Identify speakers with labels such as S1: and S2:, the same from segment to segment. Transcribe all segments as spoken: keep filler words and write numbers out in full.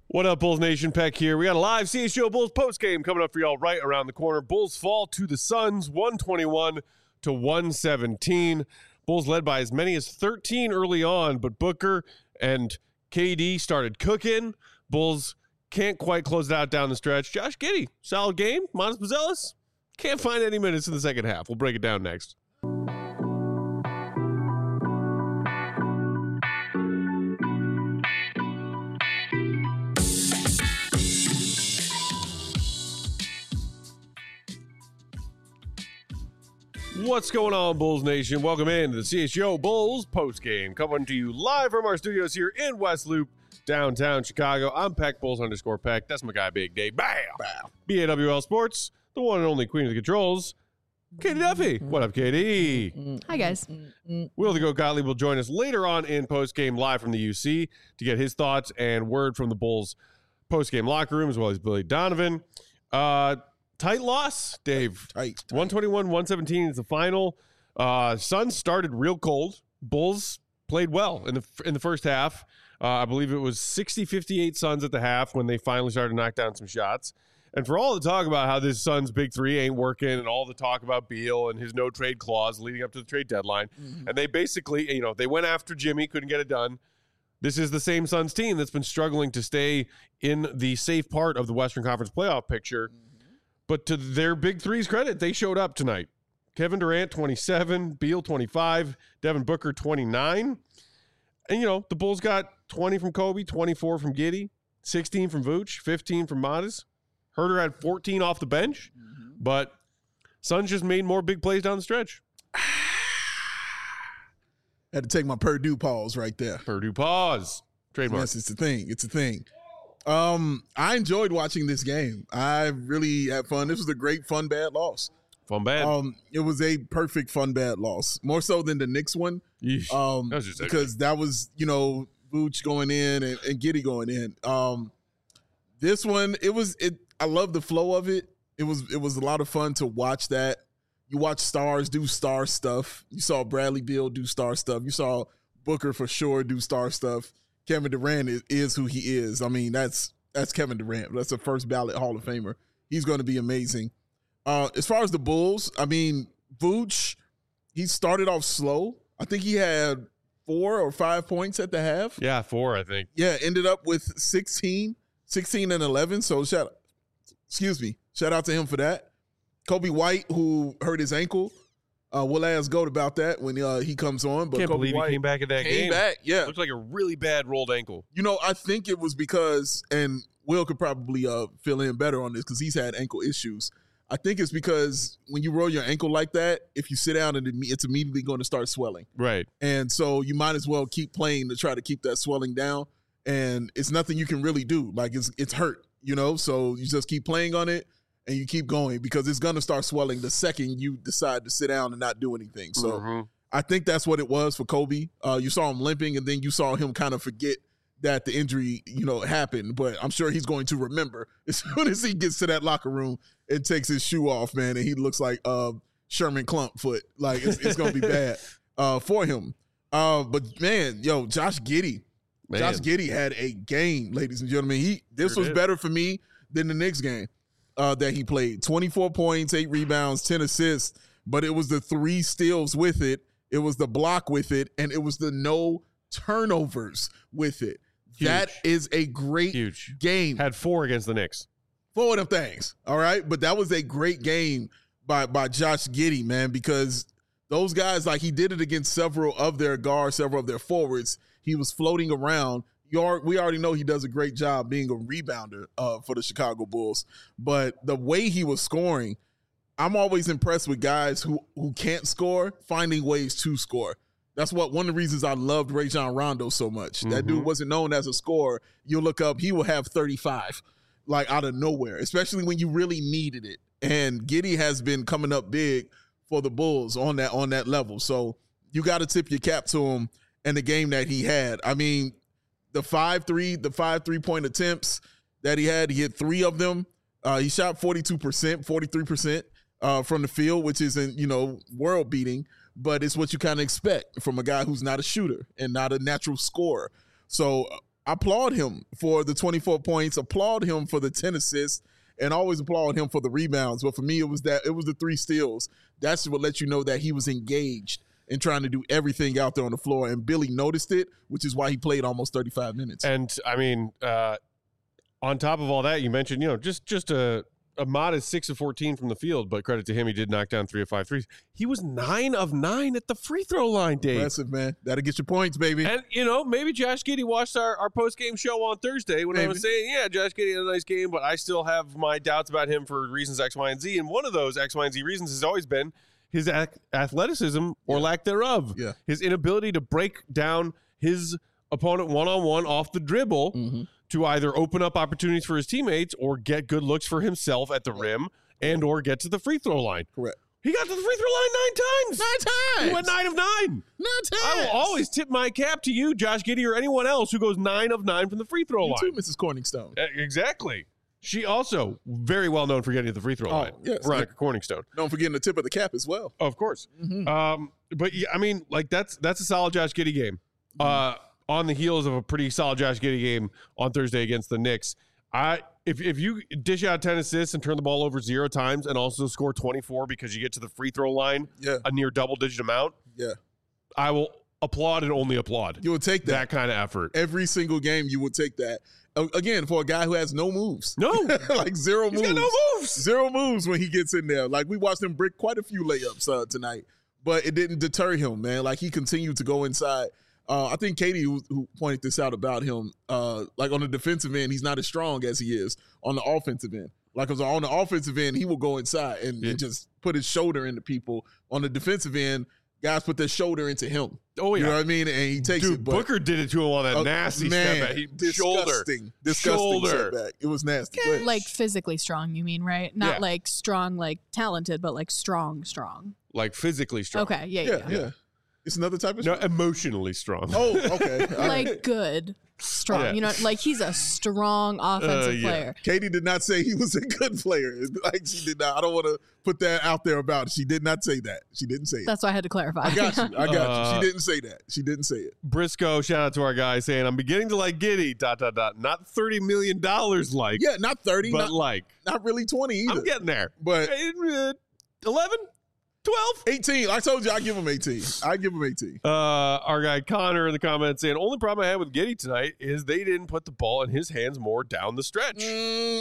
S1: What up, Bulls Nation? Peck here. We got a live C H G O Bulls postgame coming up for y'all right around the corner. Bulls fall to the Suns, one twenty-one to one seventeen. Bulls led by as many as thirteen early on, but Booker and K D started cooking. Bulls can't quite close it out down the stretch. Josh Giddey, solid game. Manas Buzelis, can't find any minutes in the second half. We'll break it down next. What's going on, Bulls Nation? Welcome in to the C H G O Bulls postgame, coming to you live from our studios here in West Loop, downtown Chicago. I'm Peck, Bulls underscore Peck. That's my guy, Big Dave. Bam! Bam. B A W L Sports, the one and only queen of the controls, Katie Duffy. What up, Katie?
S2: Hi, guys.
S1: Will the Goat Gottlieb will join us later on in postgame live from the U C to get his thoughts and word from the Bulls postgame locker room, as well as Billy Donovan. Uh... Tight loss, Dave.
S3: Tight. tight.
S1: one twenty-one one seventeen is the final. Uh, Suns started real cold. Bulls played well in the in the first half. Uh, I believe it was sixty fifty-eight Suns at the half when they finally started to knock down some shots. And for all the talk about how this Suns big three ain't working and all the talk about Beal and his no trade clause leading up to the trade deadline, mm-hmm. and they basically, you know, they went after Jimmy, couldn't get it done. This is the same Suns team that's been struggling to stay in the safe part of the Western Conference playoff picture. Mm-hmm. But to their big three's credit, they showed up tonight. Kevin Durant, twenty-seven, Beal, twenty-five, Devin Booker, twenty-nine. And, you know, the Bulls got twenty from Kobe, twenty-four from Giddey, sixteen from Vooch, fifteen from Matas. Herter had fourteen off the bench, mm-hmm. but Suns just made more big plays down the stretch.
S3: Had to take my Purdue pause right there.
S1: Purdue pause. Trademark.
S3: Yes, it's a thing. It's a thing. Um, I enjoyed watching this game. I really had fun. This was a great fun bad loss.
S1: Fun bad.
S3: Um, it was a perfect fun bad loss, more so than the Knicks one.
S1: Yeesh.
S3: Um,
S1: that was just
S3: because that was you know Vooch going in and, and Giddey going in. Um, this one it was it. I love the flow of it. It was it was a lot of fun to watch that. You watch stars do star stuff. You saw Bradley Beal do star stuff. You saw Booker for sure do star stuff. Kevin Durant is, is who he is. I mean, that's that's Kevin Durant. That's a first ballot Hall of Famer. He's going to be amazing. Uh, as far as the Bulls, I mean, Vooch, he started off slow. I think he had four or five points at the half.
S1: Yeah, four, I think.
S3: Yeah, ended up with sixteen, sixteen and eleven. So shout, excuse me, shout out to him for that. Kobe White, who hurt his ankle. Uh, we'll ask Goat about that when uh, he comes on. But
S1: Can't
S3: Kobe
S1: believe
S3: White
S1: he came back at that
S3: came
S1: game.
S3: back, yeah.
S1: Looks like a really bad rolled ankle.
S3: You know, I think it was because, and Will could probably uh, fill in better on this because he's had ankle issues. I think it's because when you roll your ankle like that, if you sit down, and it's immediately going to start swelling.
S1: Right.
S3: And so you might as well keep playing to try to keep that swelling down. And it's nothing you can really do. Like, it's it's hurt, you know? So you just keep playing on it. And you keep going because it's going to start swelling the second you decide to sit down and not do anything. So mm-hmm. I think that's what it was for Kobe. Uh, you saw him limping, and then you saw him kind of forget that the injury, you know, happened. But I'm sure he's going to remember as soon as he gets to that locker room and takes his shoe off, man, and he looks like uh, Sherman Clumpfoot. Like, it's, it's going to be bad uh, for him. Uh, but, man, yo, Josh Giddey. Man. Josh Giddey had a game, ladies and gentlemen. He This sure was did. better for me than the Knicks game. Uh, that he played. twenty-four points, eight rebounds, ten assists, but it was the three steals with it, it was the block with it, and it was the no turnovers with it. Huge. That is a great
S1: Huge.
S3: game.
S1: Had four against the Knicks.
S3: Four of them things, all right? But that was a great game by, by Josh Giddey, man, because those guys, like, he did it against several of their guards, several of their forwards. He was floating around. You are, we already know he does a great job being a rebounder uh, for the Chicago Bulls. But the way he was scoring, I'm always impressed with guys who, who can't score, finding ways to score. That's what one of the reasons I loved Rajon Rondo so much. Mm-hmm. That dude wasn't known as a scorer. You look up, he will have thirty-five, like out of nowhere, especially when you really needed it. And Giddey has been coming up big for the Bulls on that on that level. So you got to tip your cap to him and the game that he had. I mean, The five three, the five three-point attempts that he had, he hit three of them. Uh, he shot forty-two percent, forty-three percent uh, from the field, which isn't, you know, world-beating, but it's what you kind of expect from a guy who's not a shooter and not a natural scorer. So I applaud him for the twenty-four points, applaud him for the ten assists, and always applaud him for the rebounds. But for me, it was that it was the three steals. That's what let you know that he was engaged and trying to do everything out there on the floor. And Billy noticed it, which is why he played almost thirty-five minutes.
S1: And I mean, uh, on top of all that, you mentioned, you know, just just a, a modest six of fourteen from the field, but credit to him, he did knock down three of five threes. He was nine of nine at the free throw line, Dave.
S3: Impressive, man. That'll get your points, baby.
S1: And, you know, maybe Josh Giddey watched our, our post-game show on Thursday when maybe. I was saying, yeah, Josh Giddey had a nice game, but I still have my doubts about him for reasons X, Y, and Z. And one of those X, Y, and Z reasons has always been his athleticism or
S3: yeah.
S1: lack thereof.
S3: Yeah.
S1: His inability to break down his opponent one-on-one off the dribble mm-hmm. to either open up opportunities for his teammates or get good looks for himself at the rim and or get to the free throw line.
S3: Correct.
S1: He got to the free throw line nine times.
S3: Nine times.
S1: He went nine of nine.
S3: Nine times.
S1: I will always tip my cap to you, Josh Giddey, or anyone else who goes nine of nine from the free throw
S3: you
S1: line.
S3: too, Missus Corningstone.
S1: Exactly. She also very well known for getting to the free throw
S3: oh,
S1: line.
S3: Yes.
S1: Veronica Corningstone.
S3: Known for getting the tip of the cap as well.
S1: Of course.
S3: Mm-hmm.
S1: Um, but yeah, I mean, like that's that's a solid Josh Giddey game. Mm-hmm. Uh, on the heels of a pretty solid Josh Giddey game on Thursday against the Knicks. I if if you dish out ten assists and turn the ball over zero times and also score twenty-four because you get to the free throw line,
S3: yeah.
S1: a near double digit amount,
S3: yeah,
S1: I will applaud and only applaud.
S3: You will take that.
S1: That kind of effort.
S3: Every single game you would take that. Again, for a guy who has no moves.
S1: No.
S3: like zero
S1: He's
S3: moves.
S1: got no moves.
S3: Zero moves when he gets in there. Like we watched him brick quite a few layups uh, tonight, but it didn't deter him, man. Like he continued to go inside. Uh, I think Katie, who, who pointed this out about him, uh, like on the defensive end, he's not as strong as he is on the offensive end. Like on the offensive end, he will go inside and,
S1: yeah.
S3: and just put his shoulder into people. On the defensive end, guys put their shoulder into him.
S1: Oh, yeah.
S3: You know what I mean? And he takes
S1: Dude,
S3: it. But,
S1: Booker did it to him on that
S3: uh,
S1: nasty
S3: man,
S1: step back. He,
S3: disgusting,
S1: shoulder.
S3: Disgusting
S1: shoulder.
S3: setback. It was nasty.
S2: Yeah, like physically strong, you mean, right? Not
S1: yeah.
S2: like strong, like talented, but like strong, strong.
S1: Like physically strong.
S2: Okay, yeah,
S3: yeah,
S2: yeah.
S3: yeah. It's another type of
S1: No,
S3: strong.
S1: emotionally strong.
S3: Oh, okay.
S2: Like good, strong.
S1: Yeah.
S2: You know, like he's a strong offensive
S1: Uh, yeah.
S2: player.
S3: Katie did not say he was a good player. Like she did not. I don't want to put that out there about it. She did not say that. She didn't say it.
S2: That's why I had to clarify.
S3: I got you. I got
S1: Uh,
S3: you. She didn't say that. She didn't say it.
S1: Briscoe, shout out to our guy saying, I'm beginning to like Giddey, dot, dot, dot. Not thirty million dollars like.
S3: Yeah, not thirty,
S1: But
S3: not,
S1: like.
S3: not really twenty either.
S1: I'm getting there.
S3: But
S1: Uh, eleven? twelve?
S3: eighteen. I told you I give him eighteen. I give him eighteen.
S1: Uh, our guy Connor in the comments saying, only problem I had with Giddey tonight is they didn't put the ball in his hands more down the stretch.
S3: Mm.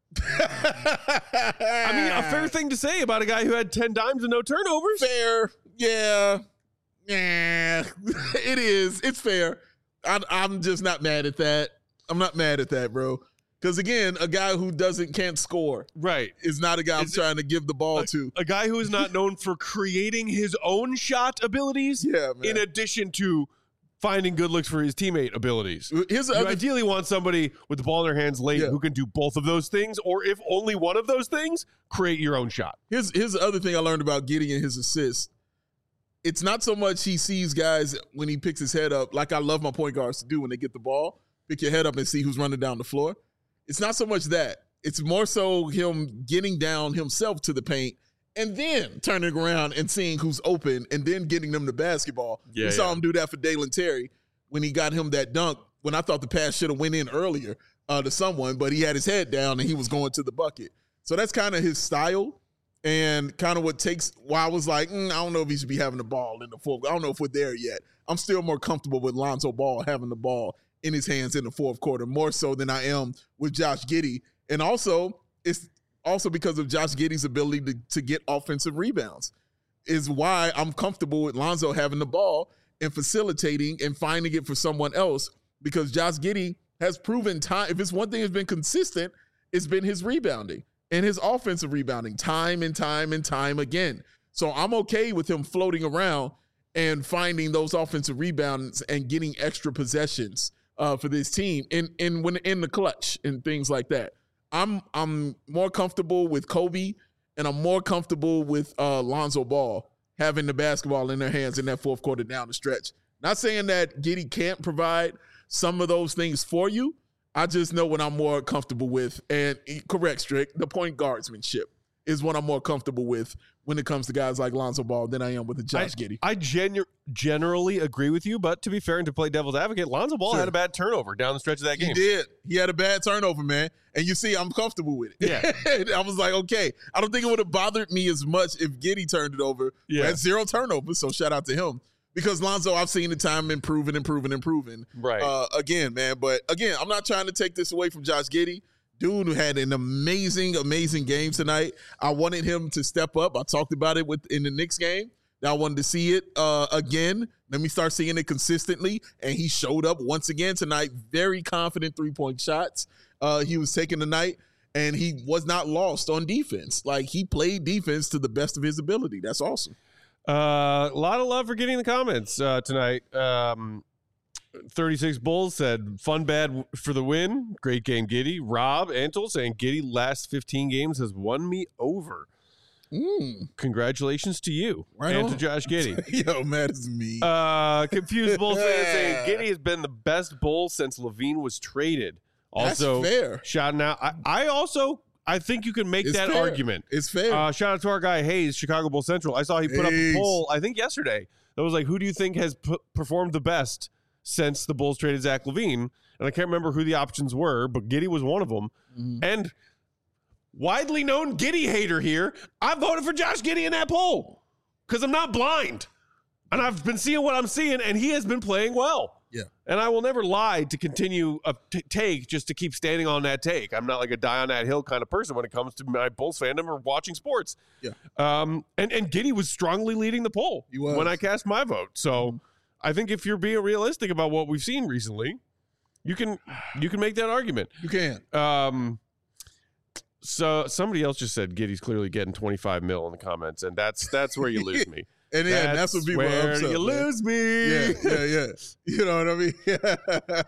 S1: I mean, a fair thing to say about a guy who had ten dimes and no turnovers.
S3: Fair. Yeah. Yeah. It is. It's fair. I, I'm just not mad at that. I'm not mad at that, bro. Because again, a guy who doesn't can't score
S1: Right.
S3: is not a guy I'm
S1: Is it-
S3: trying to give the ball
S1: A,
S3: to.
S1: a guy who is not known for creating his own shot abilities
S3: Yeah, man.
S1: in addition to finding good looks for his teammate abilities.
S3: Here's the
S1: You
S3: other
S1: ideally want somebody with the ball in their hands late
S3: Yeah.
S1: who can do both of those things, or if only one of those things, create your own shot.
S3: Here's here's the other thing I learned about Giddey and his assists. It's not so much he sees guys when he picks his head up, like I love my point guards to do when they get the ball, pick your head up and see who's running down the floor. It's not so much that. It's more so him getting down himself to the paint and then turning around and seeing who's open and then getting them the basketball.
S1: Yeah,
S3: we saw
S1: yeah.
S3: him do that for Dalen Terry when he got him that dunk when I thought the pass should have went in earlier uh, to someone, but he had his head down and he was going to the bucket. So that's kind of his style and kind of what takes why I was like, mm, I don't know if he should be having the ball in the fourth. I don't know if we're there yet. I'm still more comfortable with Lonzo Ball having the ball in his hands in the fourth quarter, more so than I am with Josh Giddey. And also, it's also because of Josh Giddey's ability to, to get offensive rebounds is why I'm comfortable with Lonzo having the ball and facilitating and finding it for someone else, because Josh Giddey has proven time. If it's one thing that's been consistent, it's been his rebounding and his offensive rebounding time and time and time again. So I'm okay with him floating around and finding those offensive rebounds and getting extra possessions uh, for this team in in when in the clutch and things like that. I'm I'm more comfortable with Kobe and I'm more comfortable with uh, Lonzo Ball having the basketball in their hands in that fourth quarter down the stretch. Not saying that Giddey can't provide some of those things for you. I just know what I'm more comfortable with. And correct, Strick, the point guardsmanship. is what I'm more comfortable with when it comes to guys like Lonzo Ball than I am with the Josh
S1: I,
S3: Giddey.
S1: I genu- generally agree with you, but to be fair and to play devil's advocate, Lonzo Ball
S3: Sure.
S1: had a bad turnover down the stretch of that game.
S3: He did. He had a bad turnover, man. And you see, I'm comfortable with it.
S1: Yeah.
S3: I was like, okay. I don't think it would have bothered me as much if Giddey turned it over.
S1: Yeah.
S3: We had zero turnovers, so shout out to him. Because Lonzo, I've seen the time improving, improving, improving.
S1: Right.
S3: Uh, again, man. But again, I'm not trying to take this away from Josh Giddey. Dude had an amazing, amazing game tonight. I wanted him to step up. I talked about it with in the Knicks game. Now I wanted to see it uh, again. Let me start seeing it consistently. And he showed up once again tonight. Very confident three-point shots. Uh, he was taking tonight, and he was not lost on defense. Like, he played defense to the best of his ability. That's awesome.
S1: Uh, a lot of love for getting the comments uh, tonight. Um, thirty-six Bulls said, fun bad for the win. Great game, Giddey. Rob Antle saying, Giddey last fifteen games has won me over.
S3: Mm.
S1: Congratulations to you
S3: Right
S1: and
S3: on.
S1: to Josh Giddey.
S3: Yo, mad as me.
S1: Uh, confused Bulls fans saying, Giddey has been the best Bull since Levine was traded. Also,
S3: That's fair.
S1: shouting out. I, I also, I think you can make
S3: It's
S1: that
S3: fair.
S1: argument.
S3: It's fair.
S1: Uh, shout out to our guy Hayes, Chicago Bull Central. I saw he put up a
S3: Hayes.
S1: poll, I think yesterday, that was like, who do you think has p- performed the best since the Bulls traded Zach LaVine? And I can't remember who the options were, but Giddey was one of them.
S3: Mhm.
S1: And widely known Giddey hater here, I voted for Josh Giddey in that poll because I'm not blind. And I've been seeing what I'm seeing, and he has been playing well.
S3: Yeah.
S1: And I will never lie to continue a t- take just to keep standing on that take. I'm not like a die on that hill kind of person when it comes to my Bulls fandom or watching sports.
S3: Yeah.
S1: Um, and, and Giddey was strongly leading the poll
S3: He was.
S1: when I cast my vote. So I think if you're being realistic about what we've seen recently, you can you can make that argument.
S3: You can.
S1: Um, so somebody else just said Giddey's clearly getting twenty-five mil in the comments, and that's that's where you lose me.
S3: And yeah, that's, what people
S1: where
S3: are upset,
S1: you
S3: man.
S1: lose me.
S3: Yeah, yeah, yeah. You know what I mean?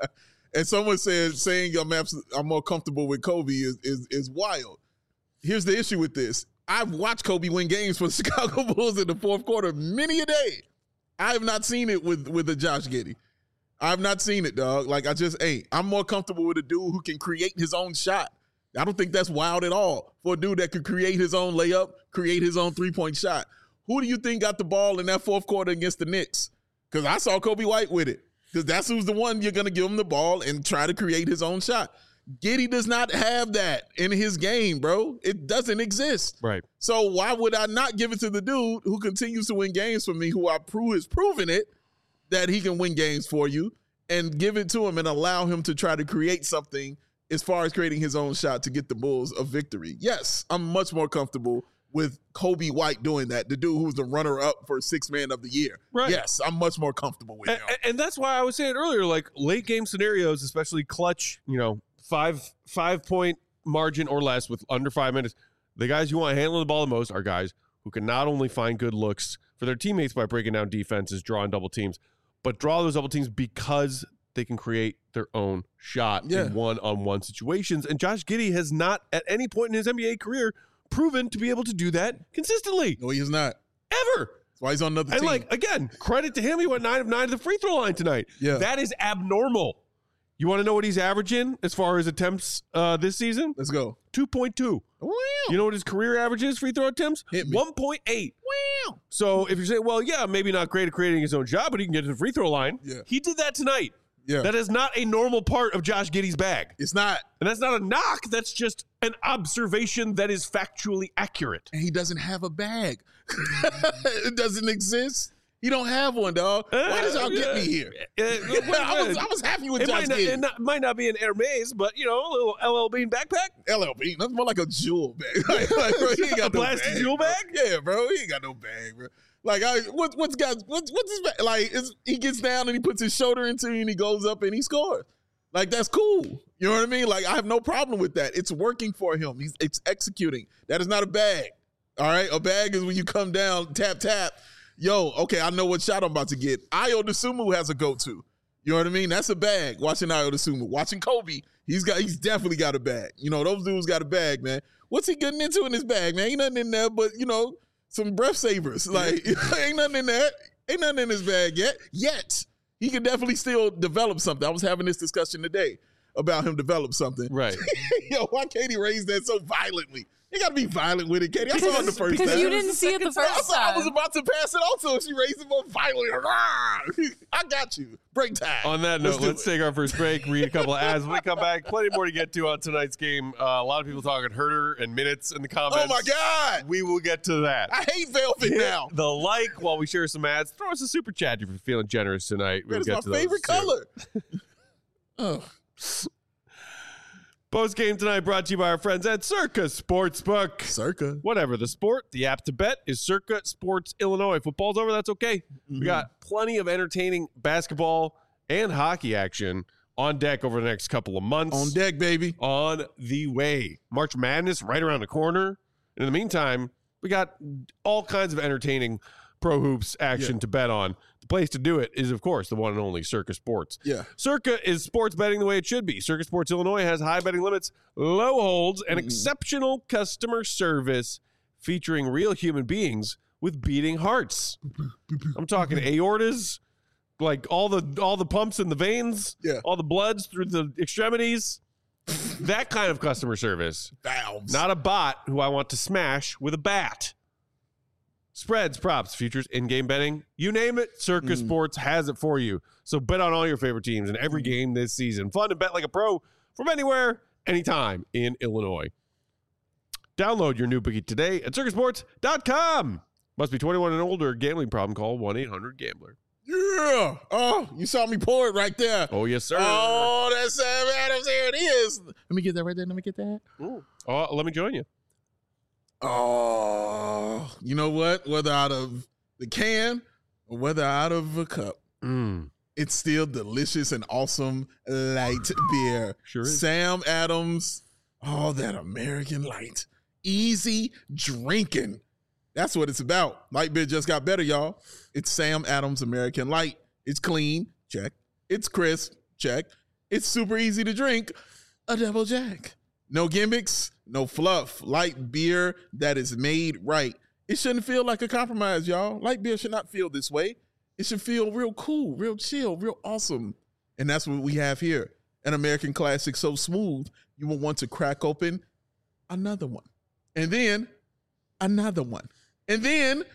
S3: And someone said saying I'm abs- I'm more comfortable with Kobe is, is is wild. Here's the issue with this. I've watched Kobe win games for the Chicago Bulls in the fourth quarter many a day. I have not seen it with with the Josh Giddey. I've not seen it, dog. Like, I just ain't. I'm more comfortable with a dude who can create his own shot. I don't think that's wild at all for a dude that could create his own layup, create his own three-point shot. Who do you think got the ball in that fourth quarter against the Knicks? Because I saw Kobe White with it. Because that's who's the one you're going to give him the ball and try to create his own shot. Giddey does not have that in his game, bro. It doesn't exist.
S1: Right.
S3: So why would I not give it to the dude who continues to win games for me, who I prove has proven it, that he can win games for you, and give it to him and allow him to try to create something as far as creating his own shot to get the Bulls a victory? Yes, I'm much more comfortable with Kobe White doing that, the dude who's the runner-up for sixth man of the year.
S1: Right.
S3: Yes, I'm much more comfortable with
S1: And,
S3: him.
S1: and that's why I was saying earlier, like late game scenarios, especially clutch, you know, five five point margin or less with under five minutes. The guys you want handling the ball the most are guys who can not only find good looks for their teammates by breaking down defenses, drawing double teams, but draw those double teams because they can create their own shot
S3: Yeah.
S1: in one-on-one situations. And Josh Giddey has not at any point in his N B A career proven to be able to do that consistently.
S3: No, he is not.
S1: Ever.
S3: That's why he's on another
S1: And
S3: team.
S1: like, again, credit to him. He went nine of nine to the free throw line tonight.
S3: Yeah.
S1: That is abnormal. You want to know what he's averaging as far as attempts uh, this season?
S3: Let's go.
S1: two point two.
S3: Wow.
S1: You know what his career average is, free throw attempts?
S3: Hit me.
S1: one point eight.
S3: Wow.
S1: So if you say, well, yeah, maybe not great at creating his own shot, but he can get to the free throw line.
S3: Yeah.
S1: He did that tonight.
S3: Yeah.
S1: That is not a normal part of Josh Giddey's bag.
S3: It's not.
S1: And that's not a knock. That's just an observation that is factually accurate.
S3: And he doesn't have a bag. It doesn't exist. He don't have one, dog. Why did y'all get me here?
S1: Uh,
S3: I was I was happy with
S1: It
S3: Josh
S1: might not,
S3: Giddey.
S1: it not, might not be an Hermes, but, you know, a little L L Bean backpack.
S3: L L B. That's more like a jewel bag. like, like, bro, he ain't got
S1: A
S3: no
S1: blasted
S3: bag,
S1: jewel
S3: bro.
S1: bag?
S3: Yeah, bro. He ain't got no bag, bro. Like, I what what's got what's what's his bag? Like, it's, he gets down and he puts his shoulder into it and he goes up and he scores. Like, that's cool. You know what I mean? Like, I have no problem with that. It's working for him. He's it's executing. That is not a bag. All right, a bag is when you come down, tap tap. Yo, okay, I know what shot I'm about to get. Ayo Dosunmu has a go-to. You know what I mean? That's a bag. Watching Ayo Dosunmu, watching Kobe, he's got he's definitely got a bag. You know, those dudes got a bag, man. What's he getting into in his bag, man? Ain't nothing in there but, you know, some breath savers. Like, ain't nothing in there. Ain't nothing in his bag yet. Yet. He could definitely still develop something. I was having this discussion today. about him develop something.
S1: Right.
S3: Yo, why can't he raise that so violently? You got to be violent with it, Katie. I saw it the first time.
S2: Because you didn't see it the
S3: I,
S2: first
S3: saw, I was
S2: time.
S3: about to pass it on to her. She raised it more violently. I got you. Break time.
S1: On that
S3: Let's
S1: note,
S3: do
S1: let's
S3: it.
S1: take our first break, read a couple of ads. When we come back, plenty more to get to on tonight's game. Uh, a lot of people talking Herder and minutes in the comments.
S3: Oh, my God.
S1: We will get to that.
S3: I hate Velvet
S1: Hit
S3: now.
S1: the like while we share some ads. Throw us a super chat if you're feeling generous tonight. We'll
S3: That is
S1: get
S3: my
S1: to those
S3: favorite
S1: soon.
S3: color. Oh.
S1: Post game tonight brought to you by our friends at Circa Sportsbook.
S3: Circa.
S1: Whatever the sport, the app to bet is Circa Sports Illinois. Football's over, that's okay.
S3: Mm-hmm.
S1: We got plenty of entertaining basketball and hockey action on deck over the next couple of months.
S3: On deck, baby.
S1: On the way. March Madness right around the corner. And in the meantime, we got all kinds of entertaining pro hoops action
S3: Yeah.
S1: to bet on. The place to do it is, of course, the one and only Circa Sports.
S3: Yeah.
S1: Circa is sports betting the way it should be. Circa Sports Illinois has high betting limits, low holds, and exceptional customer service featuring real human beings with beating hearts. I'm talking aortas, like all the all the pumps in the veins,
S3: Yeah.
S1: all the bloods through the extremities. That kind of customer service.
S3: Valves.
S1: Not a bot who I want to smash with a bat. Spreads, props, futures, in-game betting, you name it, Circa
S3: Mm.
S1: Sports has it for you. So bet on all your favorite teams in every game this season. Fun to bet like a pro from anywhere, anytime in Illinois. Download your new bookie today at circa sports dot com. Must be twenty-one and older. Gambling problem, call one eight hundred gambler.
S3: Yeah. Oh, you saw me pour it right there.
S1: Oh, yes, sir.
S3: Oh, that's Sam Adams. There it is. Let me get that right there. Let me get that.
S1: Ooh. Oh, let me join you.
S3: Oh, you know what? Whether out of the can or whether out of a cup,
S1: Mm,
S3: it's still delicious and awesome light beer.
S1: sure is.
S3: Sam Adams. Oh, that American light. Easy drinking. That's what it's about. Light beer just got better, y'all. It's Sam Adams American Light. It's clean. Check. It's crisp. Check. It's super easy to drink. A double jack. No gimmicks, no fluff. Light beer that is made right. It shouldn't feel like a compromise, y'all. Light beer should not feel this way. It should feel real cool, real chill, real awesome. And that's what we have here. An American classic so smooth, you will want to crack open another one. And then another one. And then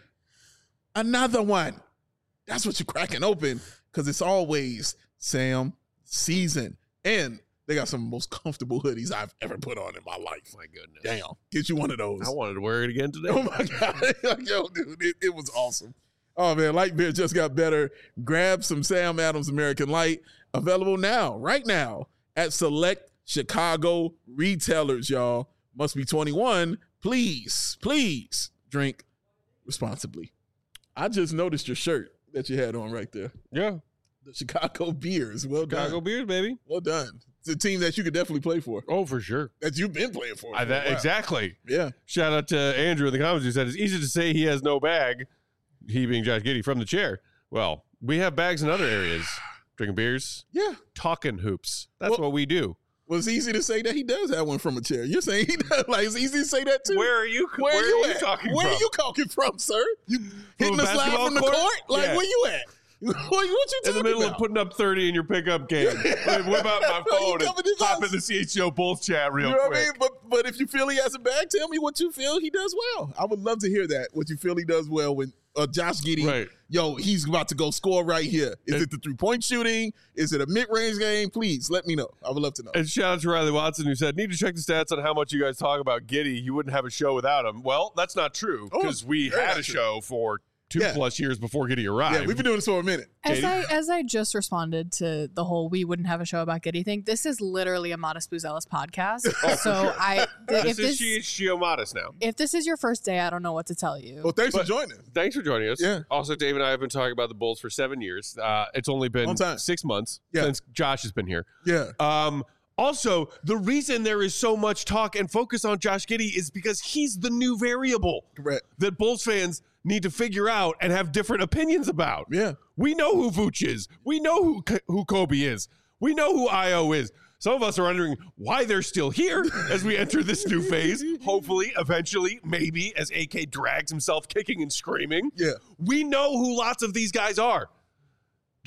S3: another one. That's what you're cracking open because it's always Sam season. And they got some of the most comfortable hoodies I've ever put on in my life.
S1: My goodness.
S3: Damn. Get you one of those.
S1: I wanted to wear it again today.
S3: Oh, my God. Yo, dude, it, it was awesome. Oh, man, light beer just got better. Grab some Sam Adams American Light. Available now, right now, at select Chicago retailers, y'all. Must be twenty-one. Please, please drink responsibly. I just noticed your shirt that you had on right there.
S1: Yeah.
S3: The Chicago Bears. Well
S1: Chicago
S3: done.
S1: Beers, baby.
S3: Well done. It's a team that you could definitely play for,
S1: Oh, for sure.
S3: that you've been playing for.
S1: I,
S3: for a
S1: that,
S3: while.
S1: exactly.
S3: Yeah.
S1: Shout out to Andrew in the comments who said it's easy to say he has no bag, he being Josh Giddey, from the chair. Well, we have bags in other areas. Drinking beers,
S3: Yeah.
S1: talking hoops. That's
S3: Well-
S1: what we do.
S3: Well, it's easy to say that he does have one from a chair. You're saying he does. Like, it's easy to say that too.
S1: Where are you?
S3: Where,
S1: where
S3: are you,
S1: are you
S3: at?
S1: talking
S3: Where
S1: from?
S3: are you talking from, sir? You hitting
S1: a
S3: the slide
S1: basketball
S3: from the
S1: court?
S3: court? Like,
S1: Yeah.
S3: where you at? what, what you
S1: in
S3: talking
S1: the middle
S3: about?
S1: of putting up thirty in your pickup game. Wait, whip out my
S3: You
S1: phone
S3: coming to
S1: and hop
S3: us?
S1: in the C H G O Bulls chat real
S3: You know
S1: quick.
S3: what I mean? But but if you feel he has a bag, tell me what you feel he does well. I would love to hear that. What you feel he does well when uh, Josh Giddey,
S1: Right.
S3: yo, he's about to go score right here. Is
S1: And-
S3: it the three point shooting? Is it a mid range game? Please let me know. I would love to know.
S1: And shout out to Riley Watson who said, need to check the stats on how much you guys talk about Giddey. You wouldn't have a show without him. Well, that's not true
S3: Oh,
S1: because we
S3: very
S1: had
S3: not
S1: a
S3: true.
S1: show for two
S3: Yeah.
S1: plus years before Giddey arrived.
S3: Yeah, we've been doing this for a minute.
S2: As
S1: Katie?
S2: I as I just responded to the whole we wouldn't have a show about Giddy thing, this is literally a Modest Booze Ellis podcast. so I
S1: this
S2: if
S1: is
S2: this
S1: C H G O Modest now.
S2: if this is your first day, I don't know what to tell you.
S3: Well, thanks
S1: But-
S3: for joining.
S1: Thanks for joining us.
S3: Yeah.
S1: Also, Dave and I have been talking about the Bulls for seven years. Uh, it's only been
S3: Long time.
S1: six months
S3: Yeah.
S1: since Josh has been here.
S3: Yeah.
S1: Um, also, the reason there is so much talk and focus on Josh Giddey is because he's the new variable
S3: Correct.
S1: that Bulls fans need to figure out and have different opinions about.
S3: Yeah.
S1: We know who Vooch is. We know who who Kobe is. We know who I O is. Some of us are wondering why they're still here as we enter this new phase. Hopefully, eventually, maybe, as A K drags himself kicking and screaming.
S3: Yeah.
S1: We know who lots of these guys are.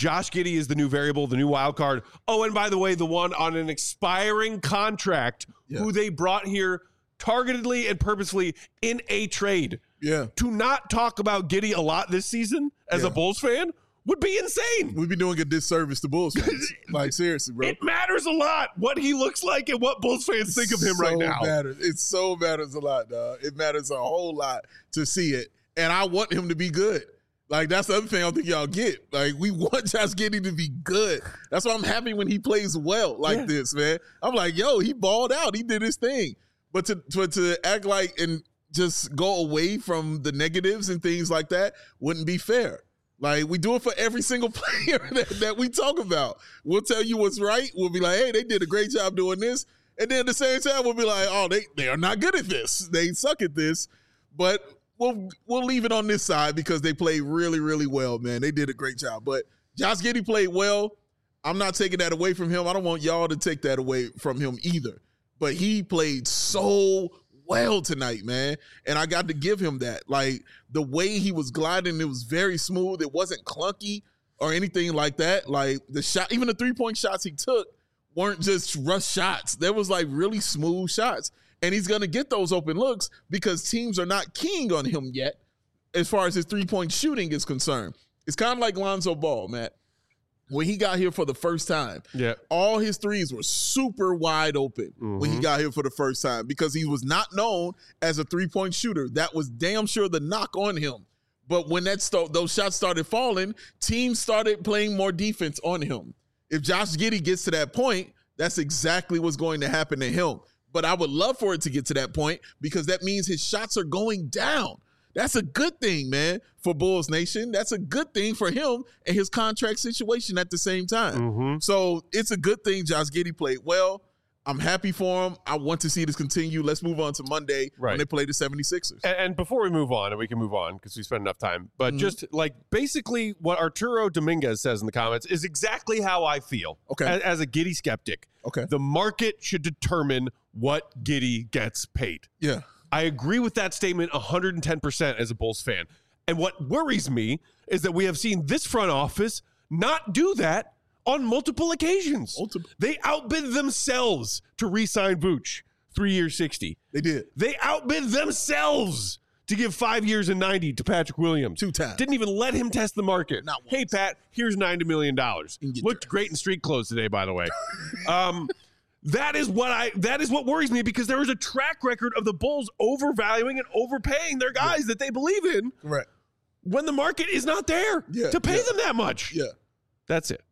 S1: Josh Giddey is the new variable, the new wild card. Oh, and by the way, the one on an expiring contract
S3: Yeah.
S1: who they brought here targetedly and purposefully in a trade.
S3: Yeah.
S1: To not talk about Giddey a lot this season as
S3: Yeah.
S1: a Bulls fan would be insane.
S3: We'd be doing a disservice to Bulls fans. Like, seriously, bro.
S1: It matters a lot what he looks like and what Bulls fans think of him
S3: so
S1: right now.
S3: Matters. It so matters a lot, dog. It matters a whole lot to see it. And I want him to be good. Like, that's the other thing I don't think y'all get. Like, we want Josh Giddey to be good. That's why I'm happy when he plays well like
S1: Yeah.
S3: this, man. I'm like, yo, he balled out. He did his thing. But to, to, to act like and just go away from the negatives and things like that wouldn't be fair. Like, we do it for every single player that, that we talk about. We'll tell you what's right. We'll be like, hey, they did a great job doing this. And then at the same time, we'll be like, oh, they, they are not good at this. They suck at this. But we'll we'll leave it on this side because they played really, really well, man. They did a great job. But Josh Giddey played well. I'm not taking that away from him. I don't want y'all to take that away from him either. But he played so well tonight, man. And I got to give him that. Like, the way he was gliding, it was very smooth. It wasn't clunky or anything like that. Like, the shot, even the three-point shots he took weren't just rush shots. There was, like, really smooth shots. And he's going to get those open looks because teams are not keying on him yet as far as his three-point shooting is concerned. It's kind of like Lonzo Ball, Matt. When he got here for the first time,
S1: Yeah.
S3: all his threes were super wide open when he
S1: Mhm.
S3: got here for the first time because he was not known as a three-point shooter. That was damn sure the knock on him. But when that st- those shots started falling, teams started playing more defense on him. If Josh Giddey gets to that point, that's exactly what's going to happen to him. But I would love for it to get to that point because that means his shots are going down. That's a good thing, man, for Bulls Nation. That's a good thing for him and his contract situation at the same time.
S1: Mm-hmm.
S3: So it's a good thing Josh Giddey played well. I'm happy for him. I want to see this continue. Let's move on to Monday
S1: Right.
S3: when they play the seventy-sixers.
S1: And, and before we move on, and we can move on because we spent enough time, but
S3: Mhm.
S1: just like basically what Arturo Dominguez says in the comments is exactly how I feel
S3: Okay.
S1: as, as a Giddey skeptic.
S3: Okay.
S1: The market should determine what Giddey gets paid.
S3: Yeah.
S1: I agree with that statement one hundred ten percent as a Bulls fan. And what worries me is that we have seen this front office not do that on multiple occasions.
S3: Multiple.
S1: They outbid themselves to re-sign Vooch, three years, sixty.
S3: They did.
S1: They outbid themselves to give five years and ninety to Patrick Williams.
S3: Two times.
S1: Didn't even let him test the market.
S3: Not
S1: Hey,
S3: once.
S1: Pat, here's ninety million dollars.
S3: You can get
S1: Looked
S3: there.
S1: great in street clothes today, by the way. um, that is what I. That is what worries me because there is a track record of the Bulls overvaluing and overpaying their guys that they believe in
S3: Correct.
S1: when the market is not there
S3: Yeah,
S1: to pay
S3: yeah.
S1: them that much.
S3: Yeah.
S1: That's it.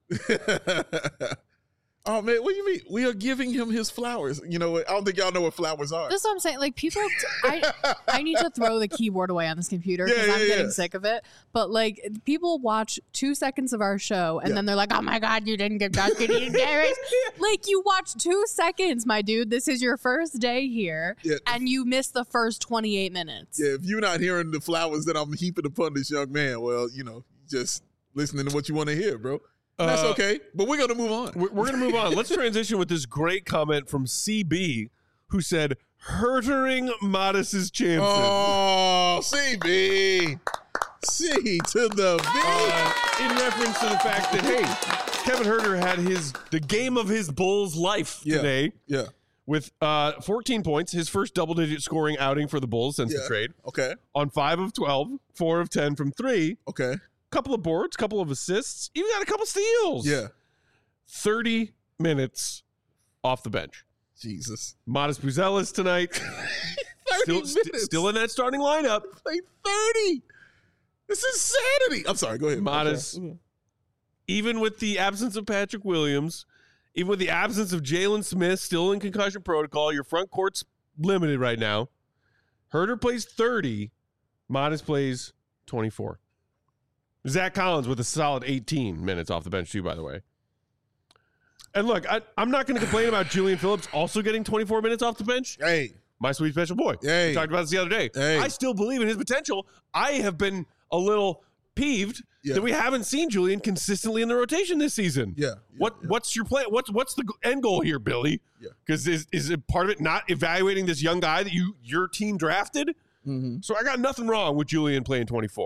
S3: Oh, man, what do you mean? We are giving him his flowers. You know what? I don't think y'all know what flowers are.
S2: That's what I'm saying. Like, people, I, I need to throw the keyboard away on this computer because
S3: Yeah,
S2: I'm
S3: yeah,
S2: getting
S3: yeah.
S2: sick of it. But like, people watch two seconds of our show and
S3: Yeah.
S2: then they're like, "Oh my god, you didn't give Josh Giddey a Darius." Like, you watch two seconds, my dude. This is your first day here,
S3: Yeah.
S2: and you missed the first twenty-eight minutes.
S3: Yeah, if you're not hearing the flowers that I'm heaping upon this young man, well, you know, just listening to what you want to hear, bro. That's
S1: Uh,
S3: okay, but we're going to move on.
S1: We're, we're going to move on. Let's transition with this great comment from C B, who said, "Hurtering Modest's chances."
S3: Oh, C B. C to the B.
S1: Uh, in reference to the fact that, hey, Kevin Herter had his the game of his Bulls life
S3: Yeah.
S1: today
S3: Yeah.
S1: with uh, fourteen points, his first double-digit scoring outing for the Bulls since
S3: Yeah.
S1: the trade,
S3: Okay.
S1: on five of twelve, four of ten from three,
S3: Okay.
S1: couple of boards, couple of assists, even got a couple steals.
S3: Yeah.
S1: thirty minutes off the bench.
S3: Jesus.
S1: Modest Buzelis tonight,
S3: thirty
S1: still,
S3: minutes.
S1: st- still in that starting lineup.
S3: Like thirty. This is insanity. I'm sorry. Go ahead.
S1: Modest.
S3: Okay.
S1: Even with the absence of Patrick Williams, even with the absence of Jalen Smith, still in concussion protocol, your front court's limited right now. Herter plays thirty. Modest plays twenty-four. Zach Collins with a solid eighteen minutes off the bench too, by the way. And look, I, I'm not going to complain about Julian Phillips also getting twenty-four minutes off the bench.
S3: Hey.
S1: My sweet special boy.
S3: Hey.
S1: We talked about this the other day.
S3: Hey.
S1: I still believe in his potential. I have been a little peeved
S3: Yeah.
S1: that we haven't seen Julian consistently in the rotation this season.
S3: Yeah. yeah,
S1: What
S3: yeah.
S1: what's your plan? What's what's the end goal here, Billy?
S3: Yeah.
S1: Because is is it part of it not evaluating this young guy that you your team drafted?
S3: Mm-hmm.
S1: So I got nothing wrong with Julian playing twenty-four.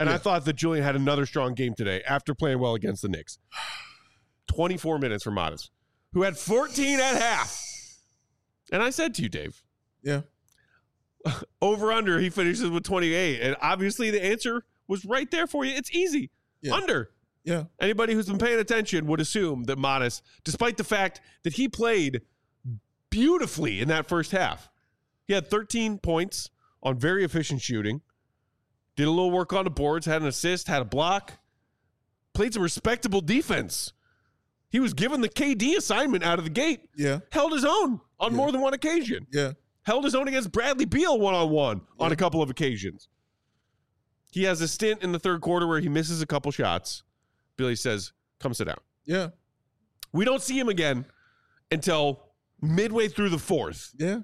S1: And
S3: Yeah.
S1: I thought that Julian had another strong game today after playing well against the Knicks. twenty-four minutes for Modest, who had fourteen at half. And I said to you, Dave,
S3: Yeah.
S1: over under, he finishes with twenty-eight. And obviously the answer was right there for you. It's easy.
S3: Yeah.
S1: Under.
S3: Yeah.
S1: Anybody who's been paying attention would assume that Modest, despite the fact that he played beautifully in that first half, he had thirteen points on very efficient shooting, did a little work on the boards, had an assist, had a block, played some respectable defense. He was given the K D assignment out of the gate,
S3: Yeah.
S1: held his own on
S3: Yeah.
S1: more than one occasion,
S3: Yeah.
S1: held his own against Bradley Beal one-on-one on a couple of occasions. He has a stint in the third quarter where he misses a couple shots. Billy says, come sit down.
S3: Yeah.
S1: We don't see him again until midway through the fourth.
S3: Yeah.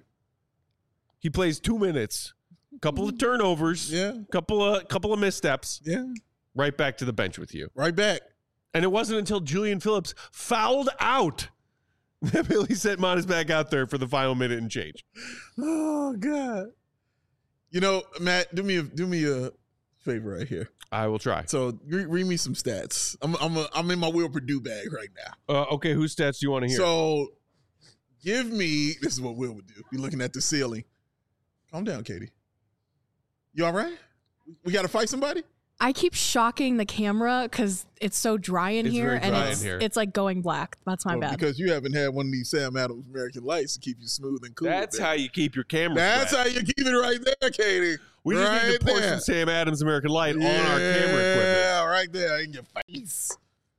S1: He plays two minutes, couple of turnovers,
S3: Yeah.
S1: couple of couple of missteps,
S3: Yeah.
S1: right back to the bench with you.
S3: Right back.
S1: And it wasn't until Julian Phillips fouled out that Billy sent Modest back out there for the final minute and change.
S3: Oh God. You know, Matt, do me a do me a favor right here.
S1: I will try.
S3: So re- read me some stats. I'm I'm a, I'm in my Will Purdue bag right now.
S1: Uh, okay, whose stats do you want to hear?
S3: So give me this is what Will would do. Be looking at the ceiling. Calm down, Katie. You all right? We got to fight somebody?
S2: I keep shocking the camera because it's so dry in
S1: It's
S2: here,
S1: very
S2: and
S1: dry
S2: it's
S1: in here.
S2: it's like going black. That's my
S3: Well,
S2: bad.
S3: Because you haven't had one of these Sam Adams American Lights to keep you smooth and cool.
S1: That's
S3: baby.
S1: how you keep your camera
S3: That's
S1: wet.
S3: how you keep it right there, Katie.
S1: We just
S3: right
S1: need to pour
S3: there.
S1: some Sam Adams American Light
S3: yeah,
S1: on our camera equipment.
S3: Yeah, right there in your face.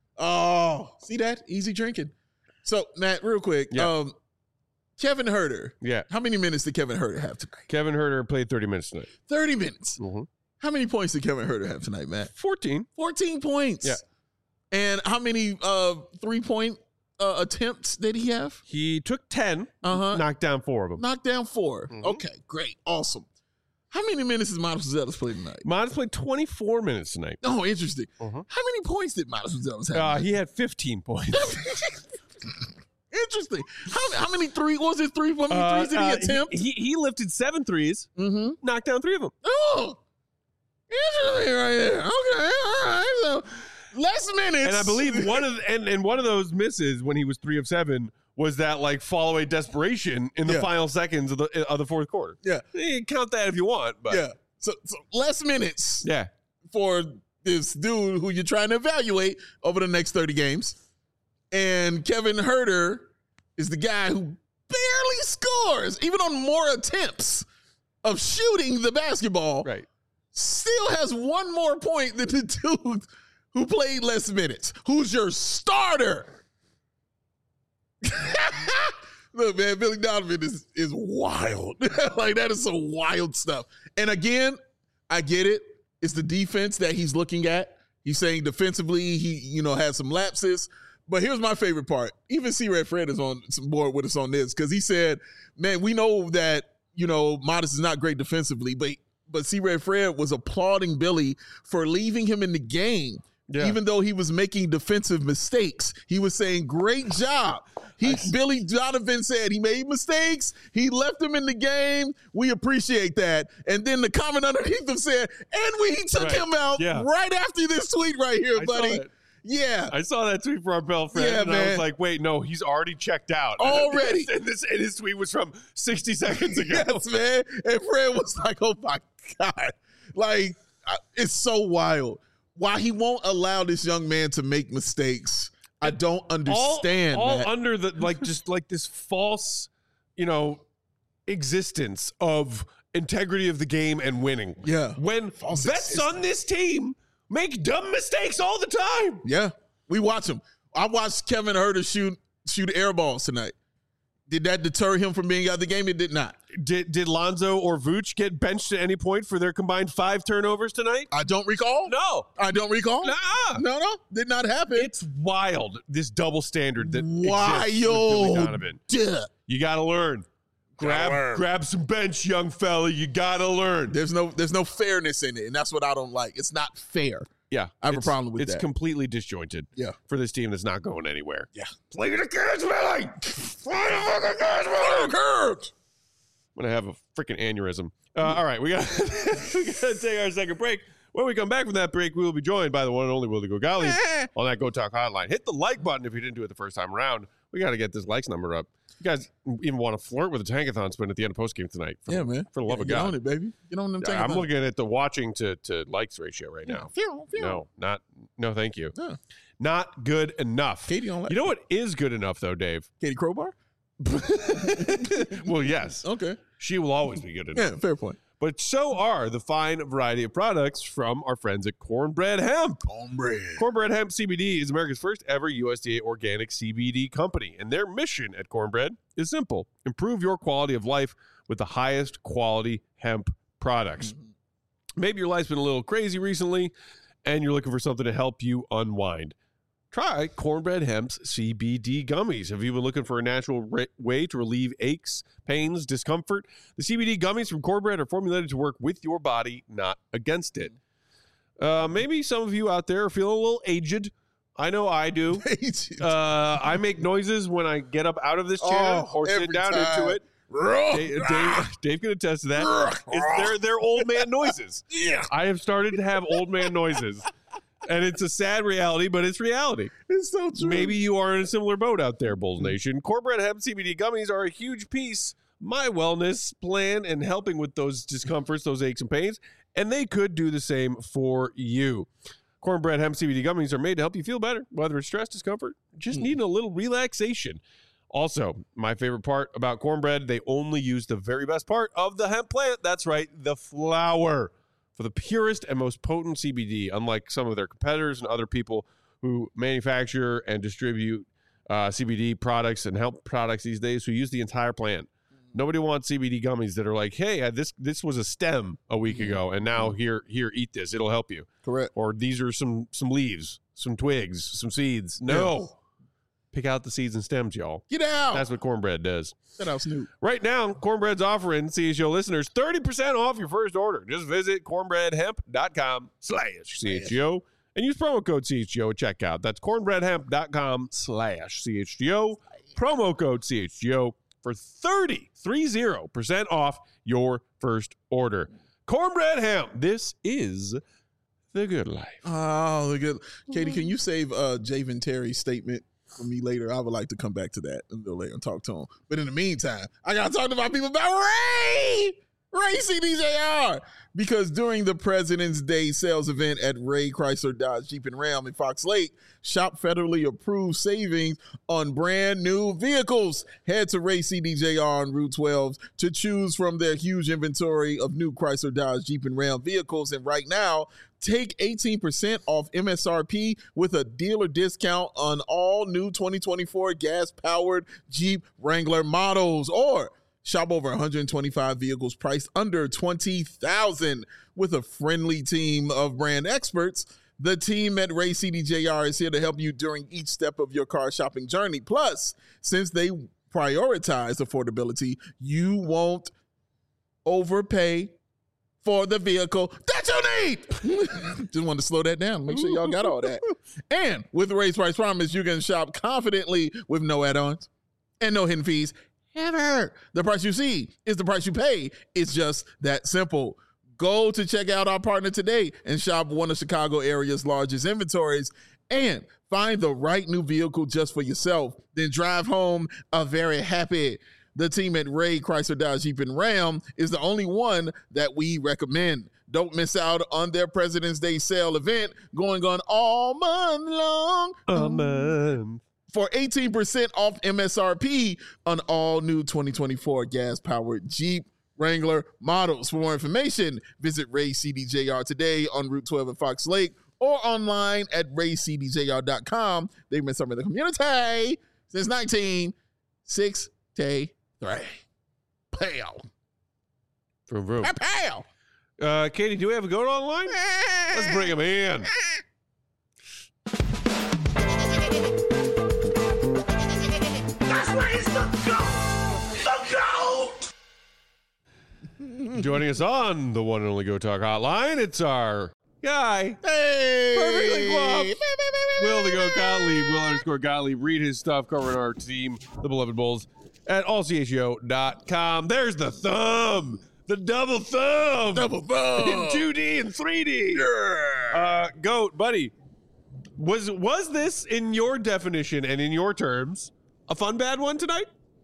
S3: Oh, see that? Easy drinking. So, Matt, real quick.
S1: Yeah.
S3: Um, Kevin Huerter.
S1: Yeah.
S3: How many minutes did Kevin Huerter have tonight?
S1: Kevin Huerter played thirty minutes tonight.
S3: thirty minutes.
S1: Mm-hmm.
S3: How many points did Kevin Huerter have tonight, Matt?
S1: fourteen.
S3: fourteen points.
S1: Yeah.
S3: And how many uh, three-point uh, attempts did he have?
S1: He took ten,
S3: Uh-huh.
S1: knocked down four of them.
S3: Knocked down four.
S1: Mhm.
S3: Okay, great. Awesome. How many minutes did Miles Zealous play tonight?
S1: Modest played twenty-four minutes tonight.
S3: Oh, interesting.
S1: Mhm.
S3: How many points did Miles Zealous have?
S1: Uh,
S3: tonight?
S1: he had fifteen points.
S3: Interesting. How, how many three what was it three? How many
S1: Uh,
S3: threes did he
S1: uh,
S3: attempt?
S1: He, he lifted seven threes,
S3: mm-hmm.
S1: knocked down three of them.
S3: Oh, interesting right there. Okay, all right. So less minutes,
S1: And I believe one of the, and, and one of those misses when he was three of seven was that like fall away desperation in the
S3: Yeah.
S1: final seconds of the of the fourth quarter.
S3: Yeah.
S1: You can count that if you want, but
S3: yeah. So, so less minutes
S1: yeah.
S3: for this dude who you're trying to evaluate over the next thirty games. And Kevin Huerter is the guy who barely scores, even on more attempts of shooting the basketball.
S1: Right.
S3: Still has one more point than the dude who played less minutes. Who's your starter? Look, man, Billy Donovan is is wild. Like, that is some wild stuff. And again, I get it. It's the defense that he's looking at. He's saying defensively, he, you know, had some lapses. But here's my favorite part. Even C-Red Fred is on some board with us on this because he said, man, we know that, you know, Modest is not great defensively, but but C-Red Fred was applauding Billy for leaving him in the game.
S1: Yeah.
S3: Even though he was making defensive mistakes, he was saying, great job. He Billy Donovan said he made mistakes. He left him in the game. We appreciate that. And then the comment underneath him said, and we took
S1: Right.
S3: him out
S1: Yeah.
S3: right after this tweet right here,
S1: I saw
S3: buddy.
S1: that.
S3: Yeah.
S1: I saw that tweet from our pal Fred,
S3: Yeah,
S1: and I was
S3: man.
S1: like, wait, no, he's already checked out.
S3: Already.
S1: and, this, and his tweet was from sixty seconds ago.
S3: Yes, man. And Fred was like, oh my God. Like, I- it's so wild. Why he won't allow this young man to make mistakes, I don't understand.
S1: all, all
S3: Matt.
S1: under the like just like this false, you know, existence of integrity of the game and winning.
S3: Yeah.
S1: When
S3: False
S1: vets
S3: existence.
S1: on this team make dumb mistakes all the time.
S3: Yeah. We watch him. I watched Kevin Huerter shoot shoot air balls tonight. Did that deter him from being out of the game? It did not.
S1: Did did Lonzo or Vooch get benched at any point for their combined five turnovers tonight?
S3: I don't recall.
S1: No.
S3: I don't recall.
S1: Nuh-uh.
S3: No, no. Did not happen.
S1: It's wild, this double standard that exists with Billy
S3: wild.
S1: Donovan.
S3: Duh.
S1: You got to learn. Grab
S3: learn.
S1: grab some bench, young fella. You got to learn.
S3: There's no there's no fairness in it, and that's what I don't like. It's not fair.
S1: Yeah.
S3: I have a
S1: it's-
S3: problem with
S1: it's
S3: that.
S1: It's completely disjointed
S3: Yeah.
S1: for this team that's not going anywhere.
S3: Yeah.
S1: Play the kids, Billy! Play the fucking kids, Billy! I'm going to have a freaking aneurysm. Uh, all right, we got we got to take our second break. When we come back from that break, we will be joined by the one and only Willie Gogali on that Go Talk hotline. Hit the like button if you didn't do it the first time around. We got to get this likes number up. You guys even want to flirt with a tankathon spin at the end of postgame tonight. For,
S3: yeah, man.
S1: For the love
S3: yeah,
S1: of
S3: get
S1: God.
S3: on it, baby. Get on them
S1: Yeah, I'm
S3: tankathons.
S1: looking at the watching to, to likes ratio right now.
S3: Yeah.
S1: No, not, no, thank you.
S3: Yeah.
S1: Not good enough.
S3: Katie on like
S1: You know what is good enough, though, Dave?
S3: Katie Crowbar?
S1: Well, yes.
S3: Okay.
S1: She will always be good enough.
S3: Yeah, fair point.
S1: But so are the fine variety of products from our friends at Cornbread Hemp.
S3: Cornbread.
S1: Cornbread Hemp C B D is America's first ever U S D A organic C B D company, and their mission at Cornbread is simple: improve your quality of life with the highest quality hemp products. Mm-hmm. Maybe your life's been a little crazy recently, and you're looking for something to help you unwind. Try Cornbread Hemp's C B D gummies. Have you been looking for a natural re- way to relieve aches, pains, discomfort? The C B D gummies from Cornbread are formulated to work with your body, not against it. Uh, maybe some of you out there are feeling a little aged. I know I do. uh, I make noises when I get up out of this chair
S3: Oh,
S1: or sit down
S3: time.
S1: into it. Dave, Dave, Dave can attest to that. It's, they're, they're old man noises.
S3: Yeah.
S1: I have started to have old man noises. And it's a sad reality, but it's reality.
S3: It's so true.
S1: Maybe you are in a similar boat out there, Bulls Nation. Cornbread Hemp C B D gummies are a huge piece of my wellness plan and helping with those discomforts, those aches and pains, and they could do the same for you. Cornbread Hemp C B D gummies are made to help you feel better, whether it's stress, discomfort, just
S3: Mm.
S1: needing a little relaxation. Also, my favorite part about cornbread, they only use the very best part of the hemp plant. That's right, the flower. For the purest and most potent C B D, unlike some of their competitors and other people who manufacture and distribute uh, C B D products and hemp products these days who use the entire plant. Nobody wants C B D gummies that are like, hey, this this was a stem a week ago, and now here, here, eat this. It'll help you.
S3: Correct.
S1: Or these are some some leaves, some twigs, some seeds. No.
S3: Yeah.
S1: Pick out the seeds and stems, y'all.
S3: Get out.
S1: That's what cornbread does.
S3: Get out, Snoop.
S1: Right now, Cornbread's offering C H O listeners thirty percent off your first order. Just visit cornbreadhemp.com slash CHGO and use promo code C H G O at checkout. That's cornbreadhemp.com slash CHGO. Promo code C H G O for thirty, thirty percent off your first order. Cornbread Hemp. This is the good life.
S3: Oh, the good. Katie, can you save uh, Javen Terry's statement for me later? I would like to come back to that a little later and talk to him. But in the meantime, I got to talk to my people about Ray! Ray C D J R! Because during the President's Day sales event at Ray Chrysler Dodge Jeep and Ram in Fox Lake, shop federally approved savings on brand new vehicles. Head to Ray C D J R on Route twelve to choose from their huge inventory of new Chrysler Dodge Jeep and Ram vehicles. And right now, take eighteen percent off M S R P with a dealer discount on all new twenty twenty-four gas-powered Jeep Wrangler models. Or shop over one hundred twenty-five vehicles priced under twenty thousand dollars with a friendly team of brand experts. The team at Ray C D J R is here to help you during each step of your car shopping journey. Plus, since they prioritize affordability, you won't overpay for the vehicle that you need. Just wanted to slow that down. Make sure y'all got all that. And with Ray's Price Promise, you can shop confidently with no add-ons and no hidden fees ever. The price you see is the price you pay. It's just that simple. Go to check out our partner today and shop one of Chicago area's largest inventories and find the right new vehicle just for yourself. Then drive home a very happy. The team at Ray Chrysler Dodge Jeep and Ram is the only one that we recommend. Don't miss out on their President's Day sale event going on all month long.
S1: A month.
S3: For eighteen percent off M S R P on all new twenty twenty-four gas-powered Jeep Wrangler models. For more information, visit Ray C D J R today on Route twelve in Fox Lake or online at ray c d j r dot com. They've been serving the community since nineteen sixty-three. Pow.
S1: Vroom, vroom.
S3: Pow.
S1: Uh, Katie, do we have a goat online? Let's bring him in.
S4: That's where he's the goat! The goat!
S1: Joining us on the one and only Go Talk Hotline, it's our guy,
S3: Hey.
S1: perfectly guap, Will the Goat Gottlieb, Will underscore Gottlieb. Read his stuff covering our team, the Beloved Bulls, at all c h o dot com. There's the thumb. The double thumb.
S3: Double thumb.
S1: In two D and three D.
S3: Yeah.
S1: Uh, Goat, buddy, was was this, in your definition and in your terms, a fun bad one tonight?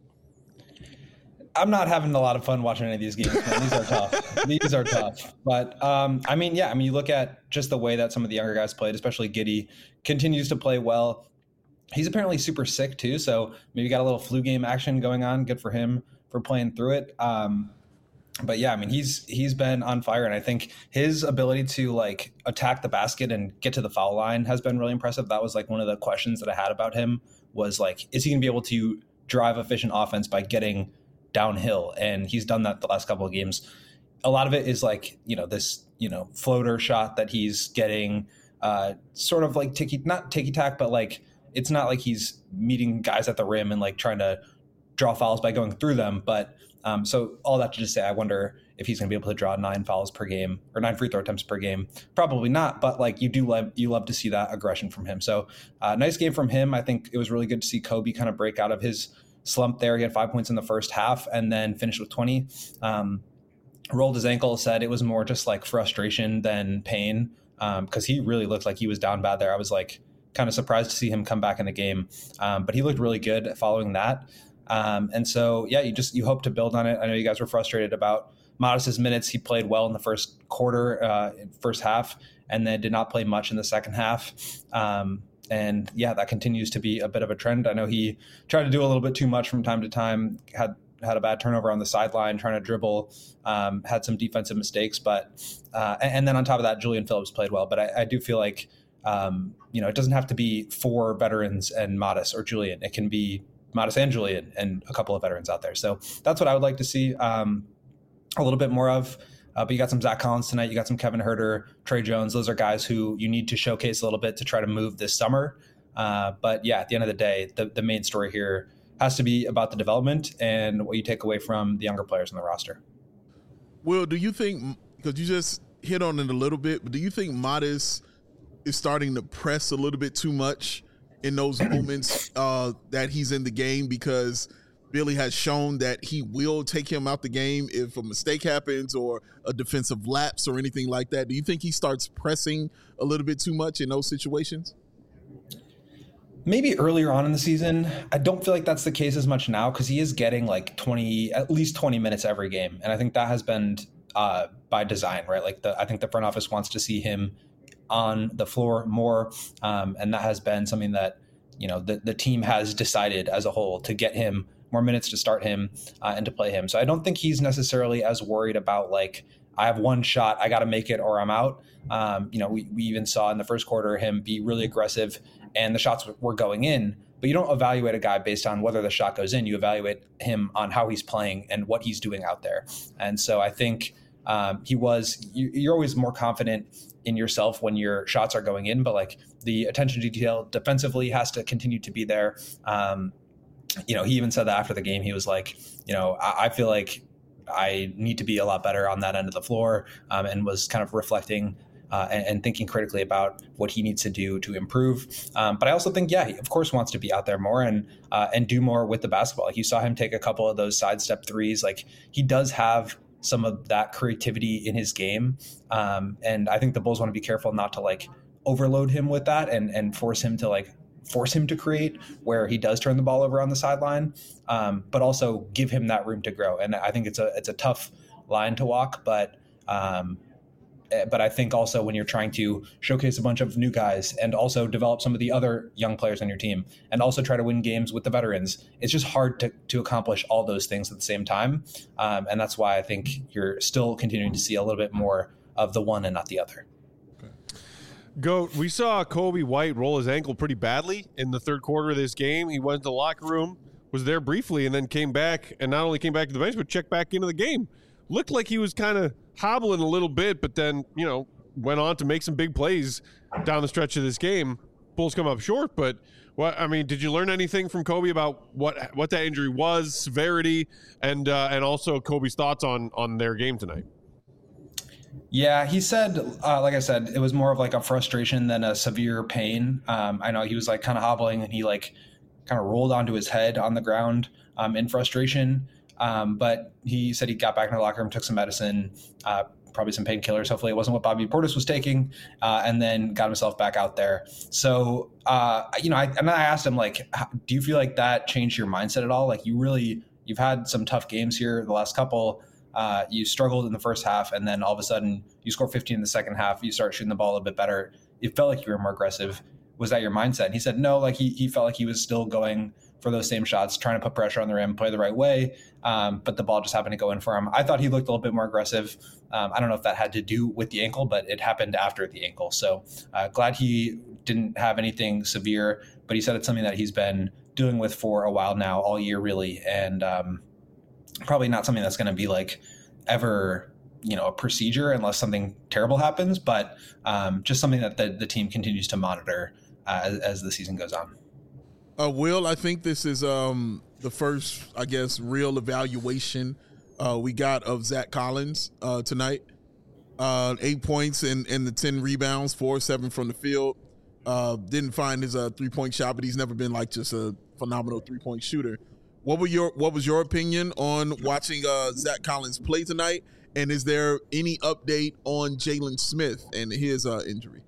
S5: I'm not having a lot of fun watching any of these games, man. These are tough. These are tough. But, um, I mean, yeah, I mean, you look at just the way that some of the younger guys played, especially Giddey, continues to play well. He's apparently super sick, too, so maybe got a little flu game action going on. Good for him for playing through it. Um, but, yeah, I mean, he's he's been on fire, and I think his ability to, like, attack the basket and get to the foul line has been really impressive. That was, like, one of the questions that I had about him was, like, is he going to be able to drive efficient offense by getting downhill? And he's done that the last couple of games. A lot of it is like, you know, this, you know, floater shot that he's getting, uh, sort of like ticky, not ticky tack, but like, it's not like he's meeting guys at the rim and like trying to draw fouls by going through them. But um, so all that to just say, I wonder if he's going to be able to draw nine fouls per game or nine free throw attempts per game. Probably not, but like you do love, you love to see that aggression from him. So uh, nice game from him. I think it was really good to see Kobe kind of break out of his slump there. He had five points in the first half and then finished with twenty. Um, rolled his ankle, said it was more just like frustration than pain because um, he really looked like he was down bad there. I was like kind of surprised to see him come back in the game, um, but he looked really good following that. Um, and so, yeah, you just you hope to build on it. I know you guys were frustrated about Modest's minutes. He played well in the first quarter, uh, first half, and then did not play much in the second half. Um, And yeah, that continues to be a bit of a trend. I know he tried to do a little bit too much from time to time, had had a bad turnover on the sideline, trying to dribble, um, had some defensive mistakes. But uh, and then on top of that, Julian Phillips played well. But I, I do feel like, um, you know, it doesn't have to be four veterans and Modest or Julian. It can be Modest and Julian and a couple of veterans out there. So that's what I would like to see um, a little bit more of. Uh, but you got some Zach Collins tonight. You got some Kevin Huerter, Trey Jones. Those are guys who you need to showcase a little bit to try to move this summer. Uh, but yeah, at the end of the day, the, the main story here has to be about the development and what you take away from the younger players in the roster.
S3: Will, do you think, because you just hit on it a little bit, but do you think Modest is starting to press a little bit too much in those moments uh, that he's in the game? Because Billy has shown that he will take him out the game if a mistake happens or a defensive lapse or anything like that. Do you think he starts pressing a little bit too much in those situations?
S5: Maybe earlier on in the season. I don't feel like that's the case as much now because he is getting like twenty, at least twenty minutes every game. And I think that has been uh, by design, right? Like the, I think the front office wants to see him on the floor more. Um, and that has been something that, you know, the, the team has decided as a whole to get him more minutes, to start him uh, and to play him. So I don't think he's necessarily as worried about like, I have one shot, I got to make it or I'm out. Um, you know, we, we even saw in the first quarter him be really aggressive and the shots were going in, but you don't evaluate a guy based on whether the shot goes in. You evaluate him on how he's playing and what he's doing out there. And so I think um, he was, you, you're always more confident in yourself when your shots are going in, but like the attention to detail defensively has to continue to be there. Um, you know, he even said that after the game. He was like, you know, I, I feel like I need to be a lot better on that end of the floor, um, and was kind of reflecting uh, and, and thinking critically about what he needs to do to improve. Um, but I also think, yeah, he of course wants to be out there more and uh, and do more with the basketball. Like you saw him take a couple of those sidestep threes. Like he does have some of that creativity in his game. Um, and I think the Bulls want to be careful not to like overload him with that and and force him to like force him to create where he does turn the ball over on the sideline, um, but also give him that room to grow. And I think it's a it's a tough line to walk, but um, but I think also when you're trying to showcase a bunch of new guys and also develop some of the other young players on your team and also try to win games with the veterans, it's just hard to, to accomplish all those things at the same time. Um, and that's why I think you're still continuing to see a little bit more of the one and not the other.
S1: Goat, we saw Kobe White roll his ankle pretty badly in the third quarter of this game. He went to the locker room, was there briefly, and then came back, and not only came back to the bench, but checked back into the game. Looked like he was kind of hobbling a little bit, but then, you know, went on to make some big plays down the stretch of this game. Bulls come up short, but, what I mean, did you learn anything from Kobe about what what that injury was, severity, and uh, and also Kobe's thoughts on on their game tonight?
S5: Yeah, he said, uh, like I said, it was more of like a frustration than a severe pain. Um, I know he was like kind of hobbling and he like kind of rolled onto his head on the ground um, in frustration. Um, but he said he got back in the locker room, took some medicine, uh, probably some painkillers. Hopefully it wasn't what Bobby Portis was taking, uh, and then got himself back out there. So, uh, you know, I, and I asked him, like, do you feel like that changed your mindset at all? Like, you really, you've had some tough games here the last couple. Uh, you struggled in the first half, and then all of a sudden you score fifteen in the second half. You start shooting the ball a bit better. It felt like you were more aggressive. Was that your mindset? And he said, no, like he, he felt like he was still going for those same shots, trying to put pressure on the rim, play the right way. Um, but the ball just happened to go in for him. I thought he looked a little bit more aggressive. Um, I don't know if that had to do with the ankle, but it happened after the ankle. So uh, glad he didn't have anything severe, but he said it's something that he's been dealing with for a while now, all year really. And um, probably not something that's going to be like ever, you know, a procedure unless something terrible happens, but um, just something that the, the team continues to monitor uh, as, as the season goes on.
S3: Uh, Will, I think this is um, the first, I guess, real evaluation uh, we got of Zach Collins uh, tonight. Uh, eight points and, and the ten rebounds, four, seven from the field. Uh, didn't find his uh, three-point shot, but he's never been like just a phenomenal three-point shooter. What were your What was your opinion on watching uh, Zach Collins play tonight? And is there any update on Jalen Smith and his uh, injury?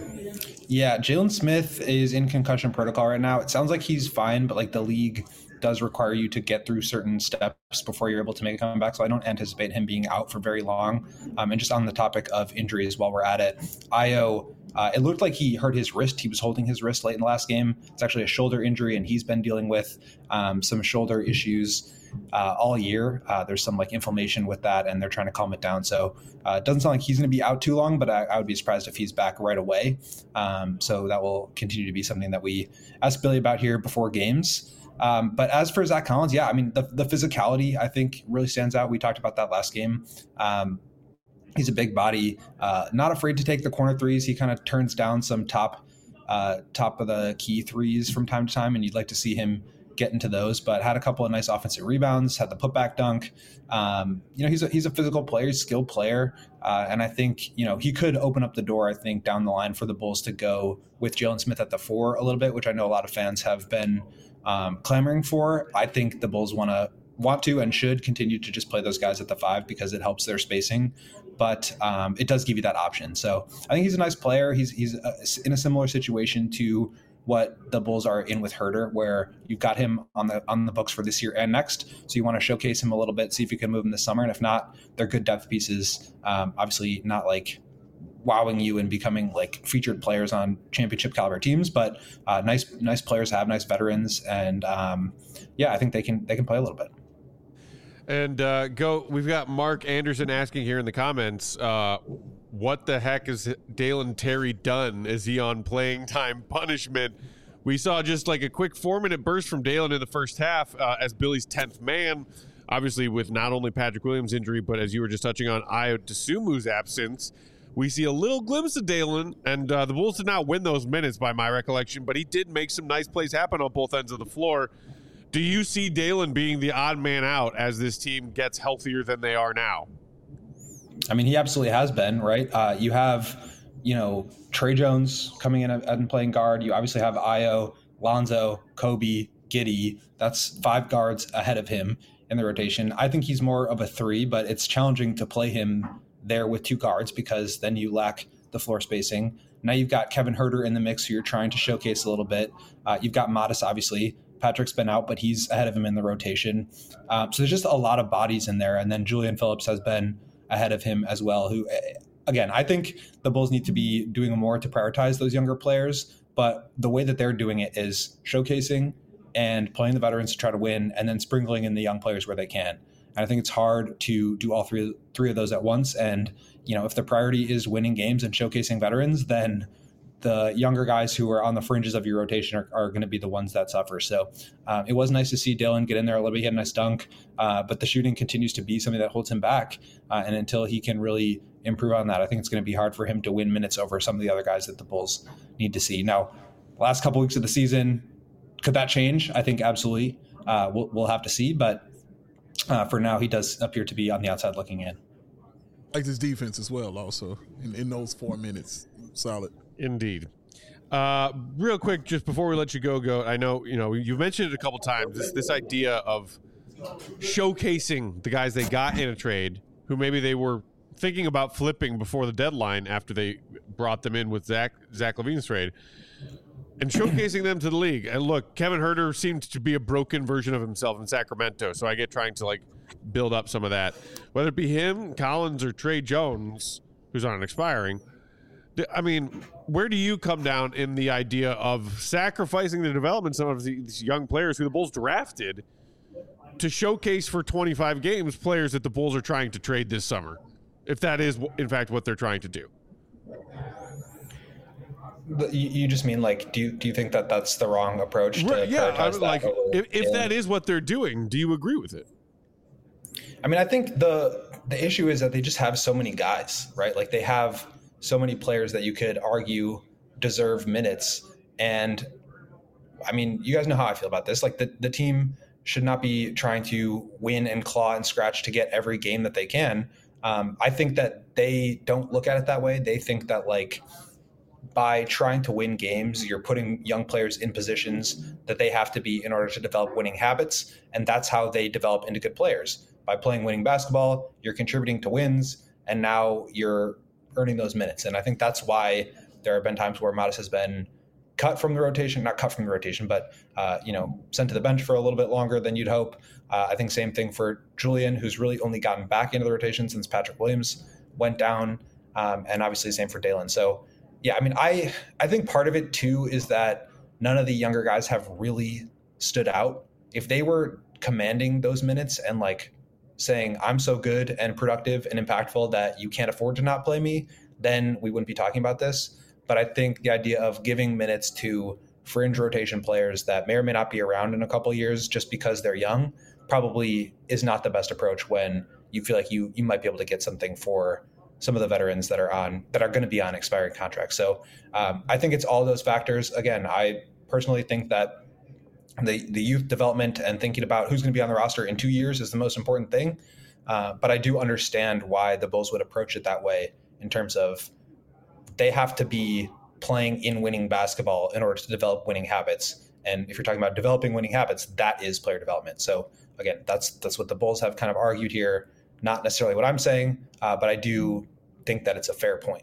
S5: Yeah, Jalen Smith is in concussion protocol right now. It sounds like he's fine, but like the league does require you to get through certain steps before you're able to make a comeback. So I don't anticipate him being out for very long. Um, and just on the topic of injuries while we're at it, Ayo, uh, it looked like he hurt his wrist. He was holding his wrist late in the last game. It's actually a shoulder injury, and he's been dealing with um, some shoulder issues Uh, all year. Uh, there's some like inflammation with that, and they're trying to calm it down. So uh, it doesn't sound like he's going to be out too long, but I, I would be surprised if he's back right away. Um, so that will continue to be something that we ask Billy about here before games. Um, but as for Zach Collins, yeah, I mean, the, the physicality, I think, really stands out. We talked about that last game. Um, he's a big body, uh, not afraid to take the corner threes. He kind of turns down some top, uh, top of the key threes from time to time, and you'd like to see him get into those, but had a couple of nice offensive rebounds, had the putback dunk. Um, you know, he's a, he's a physical player, he's a skilled player. Uh, and I think, you know, he could open up the door, I think, down the line for the Bulls to go with Jalen Smith at the four a little bit, which I know a lot of fans have been um, clamoring for. I think the Bulls want to want to and should continue to just play those guys at the five because it helps their spacing. But um, it does give you that option. So I think he's a nice player. He's, he's uh, in a similar situation to what the Bulls are in with Herter, where you've got him on the on the books for this year and next. So you want to showcase him a little bit, see if you can move him this summer. And if not, they're good depth pieces. Um, obviously not like wowing you and becoming like featured players on championship caliber teams, but uh, nice nice players have nice veterans. And um, yeah, I think they can they can play a little bit.
S1: And uh, go. We've got Mark Anderson asking here in the comments, uh, what the heck is Dalen Terry done? Is he on playing time punishment? We saw just like a quick four-minute burst from Dalen in the first half uh, as Billy's tenth man, obviously with not only Patrick Williams' injury, but as you were just touching on, Ayo Dosunmu's absence. We see a little glimpse of Dalen, and uh, the Bulls did not win those minutes by my recollection, but he did make some nice plays happen on both ends of the floor. Do you see Dalen being the odd man out as this team gets healthier than they are now?
S5: I mean, he absolutely has been, right? Uh, you have, you know, Trey Jones coming in and playing guard. You obviously have Ayo, Lonzo, Kobe, Giddey. That's five guards ahead of him in the rotation. I think he's more of a three, but it's challenging to play him there with two guards because then you lack the floor spacing. Now you've got Kevin Herter in the mix, who you're trying to showcase a little bit. Uh, you've got Modest, obviously. Patrick's been out, but he's ahead of him in the rotation. Um, so there's just a lot of bodies in there. And then Julian Phillips has been ahead of him as well, who, again, I think the Bulls need to be doing more to prioritize those younger players. But the way that they're doing it is showcasing and playing the veterans to try to win and then sprinkling in the young players where they can. And I think it's hard to do all three, three of those at once. And, you know, if the priority is winning games and showcasing veterans, then the younger guys who are on the fringes of your rotation are, are going to be the ones that suffer. So um, it was nice to see Dalen get in there a little bit. He had a nice dunk, uh, but the shooting continues to be something that holds him back. Uh, and until he can really improve on that, I think it's going to be hard for him to win minutes over some of the other guys that the Bulls need to see. Now, last couple weeks of the season, could that change? I think absolutely. Uh, we'll, we'll have to see. But uh, for now, he does appear to be on the outside looking in.
S3: Like his defense as well, also, in, in those four minutes. Solid.
S1: Indeed. Uh, real quick, just before we let you go, go. I know you know you've mentioned it a couple times. This this idea of showcasing the guys they got in a trade who maybe they were thinking about flipping before the deadline after they brought them in with Zach Zach LaVine's trade, and showcasing them to the league. And look, Kevin Huerter seemed to be a broken version of himself in Sacramento, so I get trying to like build up some of that. Whether it be him, Collins, or Trey Jones, who's on an expiring, I mean, where do you come down in the idea of sacrificing the development of some of these young players who the Bulls drafted to showcase for twenty-five games players that the Bulls are trying to trade this summer, if that is, in fact, what they're trying to do?
S5: But you, you just mean like, do you do you think that that's the wrong approach to
S1: Right, yeah, I
S5: prioritize
S1: mean,
S5: that
S1: like
S5: over
S1: if, if
S5: scaling?
S1: that is what they're doing, do you agree with it?
S5: I mean, I think the the issue is that they just have so many guys, right? Like they have so many players that you could argue deserve minutes. And I mean, you guys know how I feel about this. Like the, the team should not be trying to win and claw and scratch to get every game that they can. Um, I think that they don't look at it that way. They think that like by trying to win games, you're putting young players in positions that they have to be in order to develop winning habits. And that's how they develop into good players. By playing winning basketball, you're contributing to wins, and now you're earning those minutes. And I think that's why there have been times where Modest has been cut from the rotation, not cut from the rotation, but, uh, you know, sent to the bench for a little bit longer than you'd hope. Uh, I think same thing for Julian, who's really only gotten back into the rotation since Patrick Williams went down. Um, and obviously same for Dalen. So yeah, I mean, I, I think part of it too is that none of the younger guys have really stood out. If they were commanding those minutes and like saying I'm so good and productive and impactful that you can't afford to not play me, then we wouldn't be talking about this. But I think the idea of giving minutes to fringe rotation players that may or may not be around in a couple of years just because they're young probably is not the best approach when you feel like you you might be able to get something for some of the veterans that are on that are going to be on expiring contracts. So um, I think it's all those factors. Again, I personally think that the the youth development and thinking about who's going to be on the roster in two years is the most important thing. Uh, but I do understand why the Bulls would approach it that way in terms of they have to be playing in winning basketball in order to develop winning habits. And if you're talking about developing winning habits, that is player development. So again, that's that's what the Bulls have kind of argued here. Not necessarily what I'm saying, uh, but I do think that it's a fair point.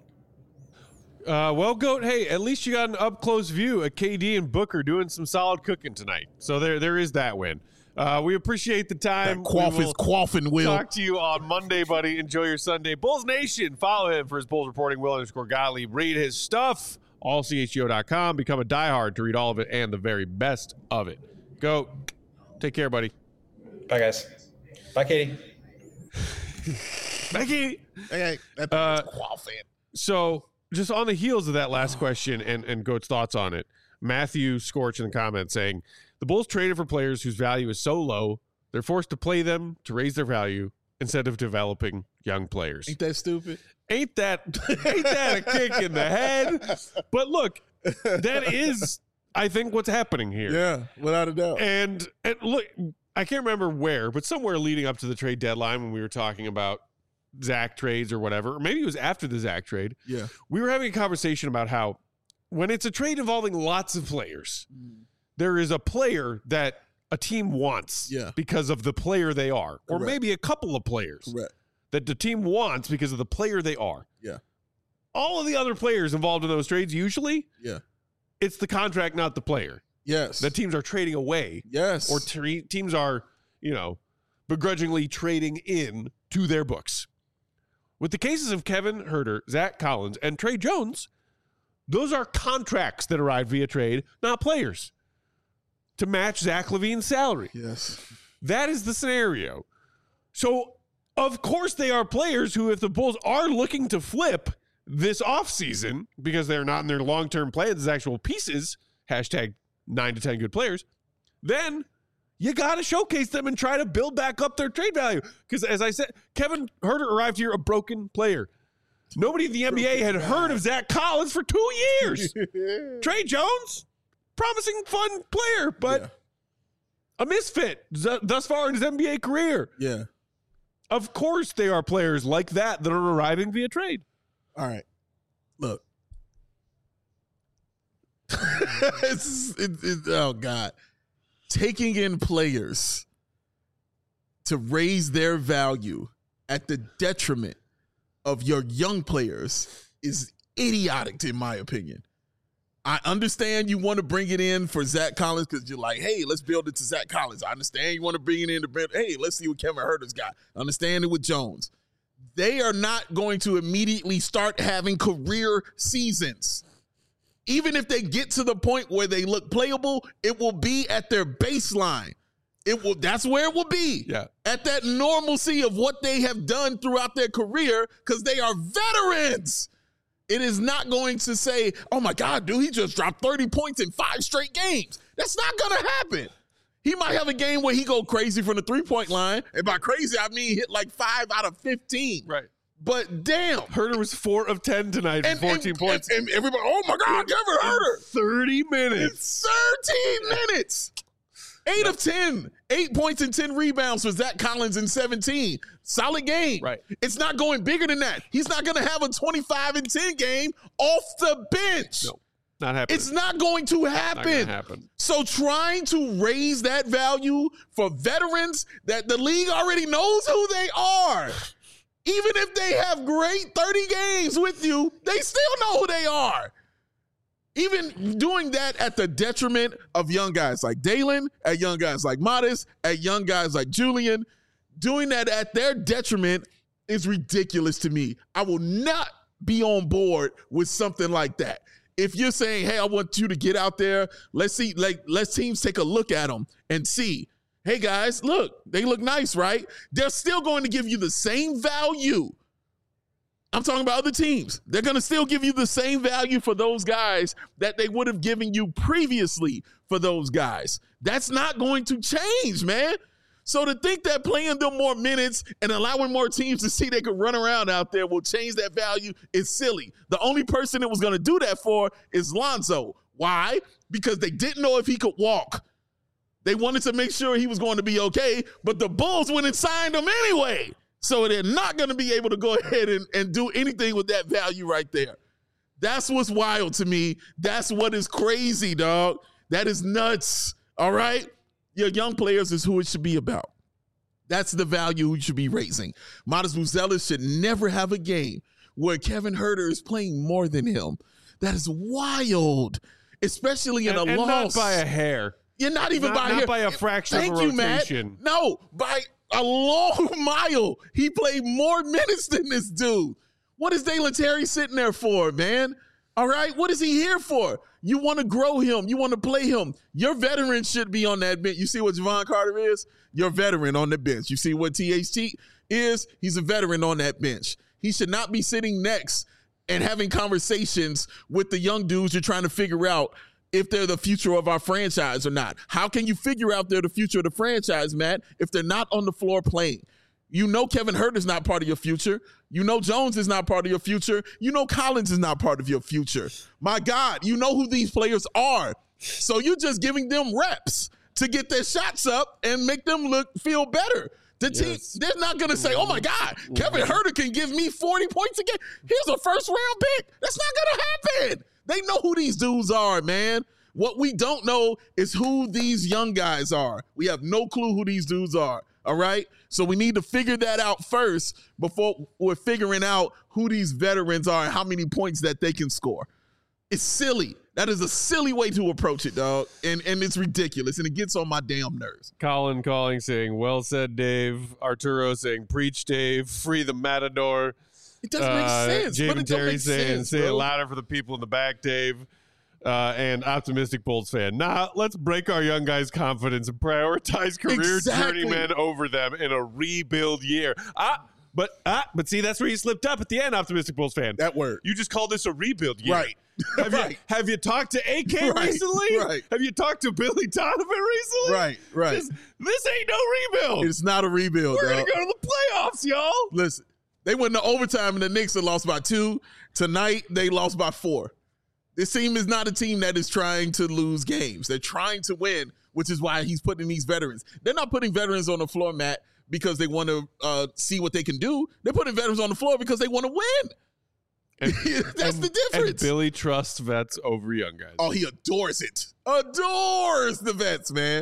S1: Uh, well, Goat, hey, at least you got an up-close view of K D and Booker doing some solid cooking tonight. So there, there is that win. Uh, we appreciate the time.
S3: That quaff is quaffing, Will.
S1: Talk to you on Monday, buddy. Enjoy your Sunday. Bulls Nation, follow him for his Bulls reporting. Will underscore Gottlieb. Read his stuff, all C H G O dot com. Become a diehard to read all of it and the very best of it. Goat, take care, buddy.
S5: Bye, guys. Bye, Katie.
S1: Bye, Katie.
S3: Okay, that's
S1: Uh,
S3: quaffing.
S1: So, just on the heels of that last question and, and Goat's thoughts on it, Matthew Scorch in the comments saying, the Bulls traded for players whose value is so low, they're forced to play them to raise their value instead of developing young players.
S3: Ain't that stupid?
S1: Ain't that, ain't that a kick in the head? But look, that is, I think, what's happening here.
S3: Yeah, without a doubt.
S1: And, and look, I can't remember where, but somewhere leading up to the trade deadline when we were talking about Zach trades or whatever, or maybe it was after the Zach trade.
S3: Yeah.
S1: We were having a conversation about how when it's a trade involving lots of players, mm. there is a player that a team wants
S3: yeah.
S1: because of the player they are, or
S3: Correct.
S1: maybe a couple of players
S3: Correct.
S1: that the team wants because of the player they are.
S3: Yeah.
S1: All of the other players involved in those trades, usually,
S3: yeah,
S1: it's the contract, not the player.
S3: Yes.
S1: That teams are trading away.
S3: Yes.
S1: Or tre- teams are, you know, begrudgingly trading in to their books. With the cases of Kevin Huerter, Zach Collins, and Trey Jones, those are contracts that arrived via trade, not players, to match Zach LaVine's salary.
S3: Yes.
S1: That is the scenario. So, of course, they are players who, if the Bulls are looking to flip this offseason, because they're not in their long-term plans as actual pieces, hashtag nine to ten good players, then you got to showcase them and try to build back up their trade value. Because as I said, Kevin Huerter arrived here a broken player. Nobody in the N B A had heard of Zach Collins for two years. Trey Jones, promising fun player, but yeah. a misfit thus far in his N B A career.
S3: Yeah.
S1: Of course they are players like that that are arriving via trade.
S3: All right. Look. it's, it, it, oh, God. Taking in players to raise their value at the detriment of your young players is idiotic, in my opinion. I understand you want to bring it in for Zach Collins because you're like, hey, let's build it to Zach Collins. I understand you want to bring it in to Brent. Hey, let's see what Kevin Huerter's got. I understand it with Jones. They are not going to immediately start having career seasons. Even if they get to the point where they look playable, it will be at their baseline. It will. That's where it will be.
S1: Yeah.
S3: At that normalcy of what they have done throughout their career because they are veterans. It is not going to say, oh, my God, dude, he just dropped thirty points in five straight games. That's not going to happen. He might have a game where he go crazy from the three-point line. And by crazy, I mean hit like five out of fifteen.
S1: Right.
S3: But damn.
S1: Huerter was four of ten tonight for
S3: And,
S1: fourteen
S3: and,
S1: points.
S3: And, and everybody, oh, my God, Kevin Huerter.
S1: thirty minutes.
S3: thirteen minutes. Eight of ten. Eight points and ten rebounds for Zach Collins in seventeen. Solid game.
S1: Right.
S3: It's not going bigger than that. He's not going to have a twenty-five and ten game off the bench.
S1: No, not happening.
S3: It's not going to happen.
S1: Not gonna happen.
S3: So trying to raise that value for veterans that the league already knows who they are. Even if they have great thirty games with you, they still know who they are. Even doing that at the detriment of young guys like Dalen, at young guys like Modest, at young guys like Julian, doing that at their detriment is ridiculous to me. I will not be on board with something like that. If you're saying, hey, I want you to get out there, let's see, like, let's teams take a look at them and see, hey, guys, look, they look nice, right? They're still going to give you the same value. I'm talking about other teams. They're going to still give you the same value for those guys that they would have given you previously for those guys. That's not going to change, man. So to think that playing them more minutes and allowing more teams to see they can run around out there will change that value is silly. The only person it was going to do that for is Lonzo. Why? Because they didn't know if he could walk. They wanted to make sure he was going to be okay, but the Bulls went and signed him anyway. So they're not going to be able to go ahead and, and do anything with that value right there. That's what's wild to me. That's what is crazy, dog. That is nuts, all right? Your young players is who it should be about. That's the value you should be raising. Modest Buzelis should never have a game where Kevin Huerter is playing more than him. That is wild, especially in
S1: and,
S3: a
S1: and
S3: loss.
S1: not by a hair.
S3: You're not even
S1: not,
S3: by,
S1: not
S3: hair.
S1: by a fraction
S3: Thank
S1: of a
S3: you,
S1: rotation.
S3: Matt. No, by a long mile. He played more minutes than this dude. What is Dalen Terry sitting there for, man? All right, what is he here for? You want to grow him. You want to play him. Your veteran should be on that bench. You see what Javon Carter is? Your veteran on the bench. You see what T H T is? He's a veteran on that bench. He should not be sitting next and having conversations with the young dudes you're trying to figure out if they're the future of our franchise or not. How can you figure out they're the future of the franchise, Matt, if they're not on the floor playing? You know Kevin Huerter is not part of your future. You know Jones is not part of your future. You know Collins is not part of your future. My God, you know who these players are. So you're just giving them reps to get their shots up and make them look feel better. The team,
S1: Yes.
S3: they're not going to say, oh, my God, Kevin Huerter can give me forty points a game. Here's a first-round pick. That's not going to happen. They know who these dudes are, man. What we don't know is who these young guys are. We have no clue who these dudes are, all right? So we need to figure that out first before we're figuring out who these veterans are and how many points that they can score. It's silly. That is a silly way to approach it, dog. And and it's ridiculous, and it gets on my damn nerves.
S1: Colin calling saying, well said, Dave. Arturo saying, preach, Dave. Free the Matador.
S3: It doesn't make
S1: Uh,
S3: sense.
S1: Javen
S3: But it don't
S1: Terry
S3: make
S1: saying,
S3: sense,
S1: say it
S3: bro.
S1: louder for the people in the back, Dave. Uh, and optimistic Bulls fan. Nah, let's break our young guys' confidence and prioritize career
S3: Exactly.
S1: journeymen over them in a rebuild year. Ah, but ah, but see, that's where you slipped up at the end, optimistic Bulls fan.
S3: That word.
S1: You just called this a rebuild year.
S3: Right.
S1: Have
S3: Right.
S1: you have you talked to A K
S3: Right.
S1: recently?
S3: Right.
S1: Have you talked to Billy Donovan recently?
S3: Right, right.
S1: This, this ain't no rebuild.
S3: It's not a rebuild,
S1: We're
S3: dog.
S1: gonna go to the playoffs, y'all.
S3: Listen, they went to overtime and the Knicks had lost by two. Tonight, they lost by four. This team is not a team that is trying to lose games. They're trying to win, which is why he's putting these veterans. They're not putting veterans on the floor, Matt, because they want to uh, see what they can do. They're putting veterans on the floor because they want to win.
S1: And,
S3: That's
S1: and-
S3: the difference.
S1: And Billy trusts vets over young guys.
S3: Oh, he adores it. Adores the vets, man.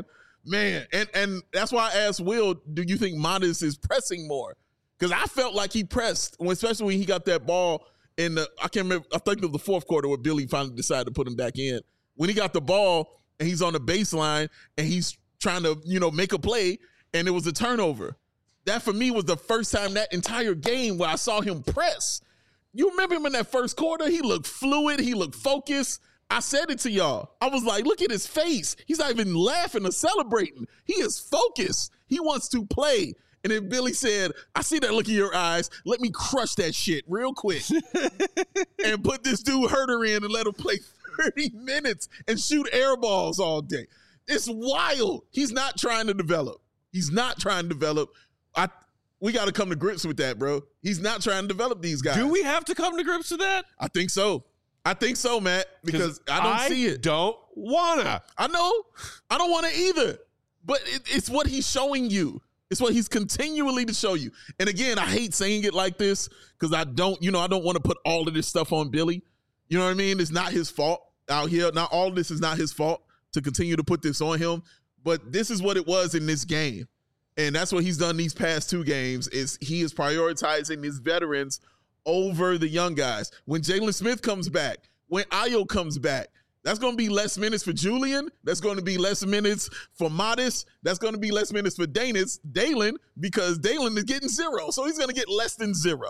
S3: Man, and and that's why I asked Will, do you think Modest is pressing more? Because I felt like he pressed, especially when he got that ball in the, I can't remember, I think it was the fourth quarter where Billy finally decided to put him back in. When he got the ball and he's on the baseline and he's trying to, you know, make a play and it was a turnover. That for me was the first time that entire game where I saw him press. You remember him in that first quarter? He looked fluid. He looked focused. I said it to y'all. I was like, look at his face. He's not even laughing or celebrating. He is focused. He wants to play. And then Billy said, I see that look in your eyes. Let me crush that shit real quick and put this dude Herder in and let him play thirty minutes and shoot air balls all day. It's wild. He's not trying to develop. He's not trying to develop. I We got to come to grips with that, bro. He's not trying to develop these guys.
S1: Do we have to come to grips with that?
S3: I think so. I think so, Matt, because I don't
S1: I
S3: see it.
S1: don't wanna.
S3: I know. I don't want to either. But it, it's what he's showing you. It's what he's continually to show you. And again, I hate saying it like this because I don't, you know, I don't want to put all of this stuff on Billy. You know what I mean? It's not his fault out here. Not all of this is not his fault to continue to put this on him. But this is what it was in this game. And that's what he's done these past two games is he is prioritizing his veterans over the young guys. When Jalen Smith comes back, when Ayo comes back, that's going to be less minutes for Julian. That's going to be less minutes for Modest. That's going to be less minutes for Danis, Dalen, because Dalen is getting zero. So he's going to get less than zero,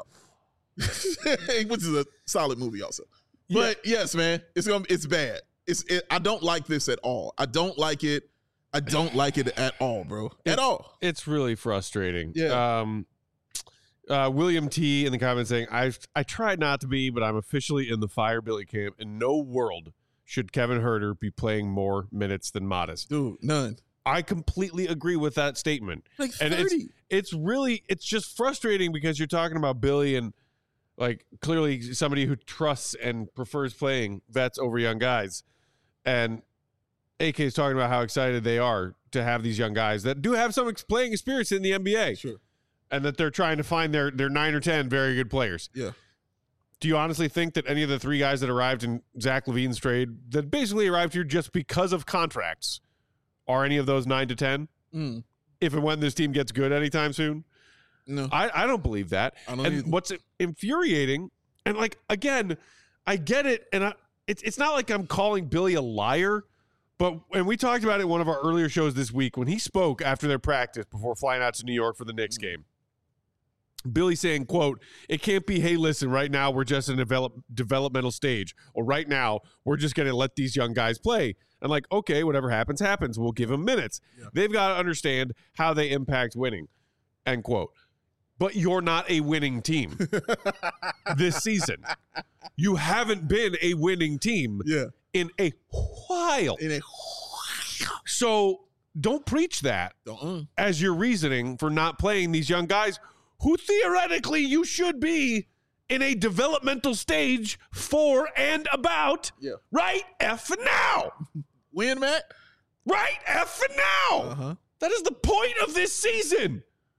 S3: which is a solid movie also. Yeah. But yes, man, it's going to, it's bad. It's it, I don't like this at all. I don't like it. I don't like it at all, bro. At
S1: it's,
S3: all.
S1: It's really frustrating.
S3: Yeah.
S1: Um, uh, William T in the comments saying, I I tried not to be, but I'm officially in the Fire Billy camp. In no world should Kevin Herder be playing more minutes than Modest.
S3: Dude, none.
S1: I completely agree with that statement.
S3: Like thirty.
S1: And it's, it's really, it's just frustrating because you're talking about Billy and like clearly somebody who trusts and prefers playing vets over young guys. And A K is talking about how excited they are to have these young guys that do have some ex- playing experience in the N B A.
S3: Sure.
S1: And that they're trying to find their, their nine or ten very good players.
S3: Yeah.
S1: Do you honestly think that any of the three guys that arrived in Zach LaVine's trade that basically arrived here just because of contracts are any of those nine to ten?
S3: Mm.
S1: If and when this team gets good anytime soon?
S3: No.
S1: I, I don't believe that.
S3: I don't
S1: and
S3: either.
S1: what's infuriating, and like, again, I get it, and I, it's it's not like I'm calling Billy a liar, but and we talked about it in one of our earlier shows this week when he spoke after their practice before flying out to New York for the Knicks game. Billy saying, quote, it can't be, hey, listen, right now we're just in a develop, developmental stage, or right now we're just going to let these young guys play. And like, okay, whatever happens, happens. We'll give them minutes. Yeah. They've got to understand how they impact winning, end quote. But you're not a winning team this season. You haven't been a winning team
S3: yeah.
S1: in a while.
S3: In a while.
S1: So don't preach that
S3: uh-uh.
S1: as your reasoning for not playing these young guys who theoretically you should be in a developmental stage for and about
S3: yeah.
S1: right F now.
S3: When, Matt?
S1: Right F now.
S3: Uh-huh.
S1: That is the point of this season.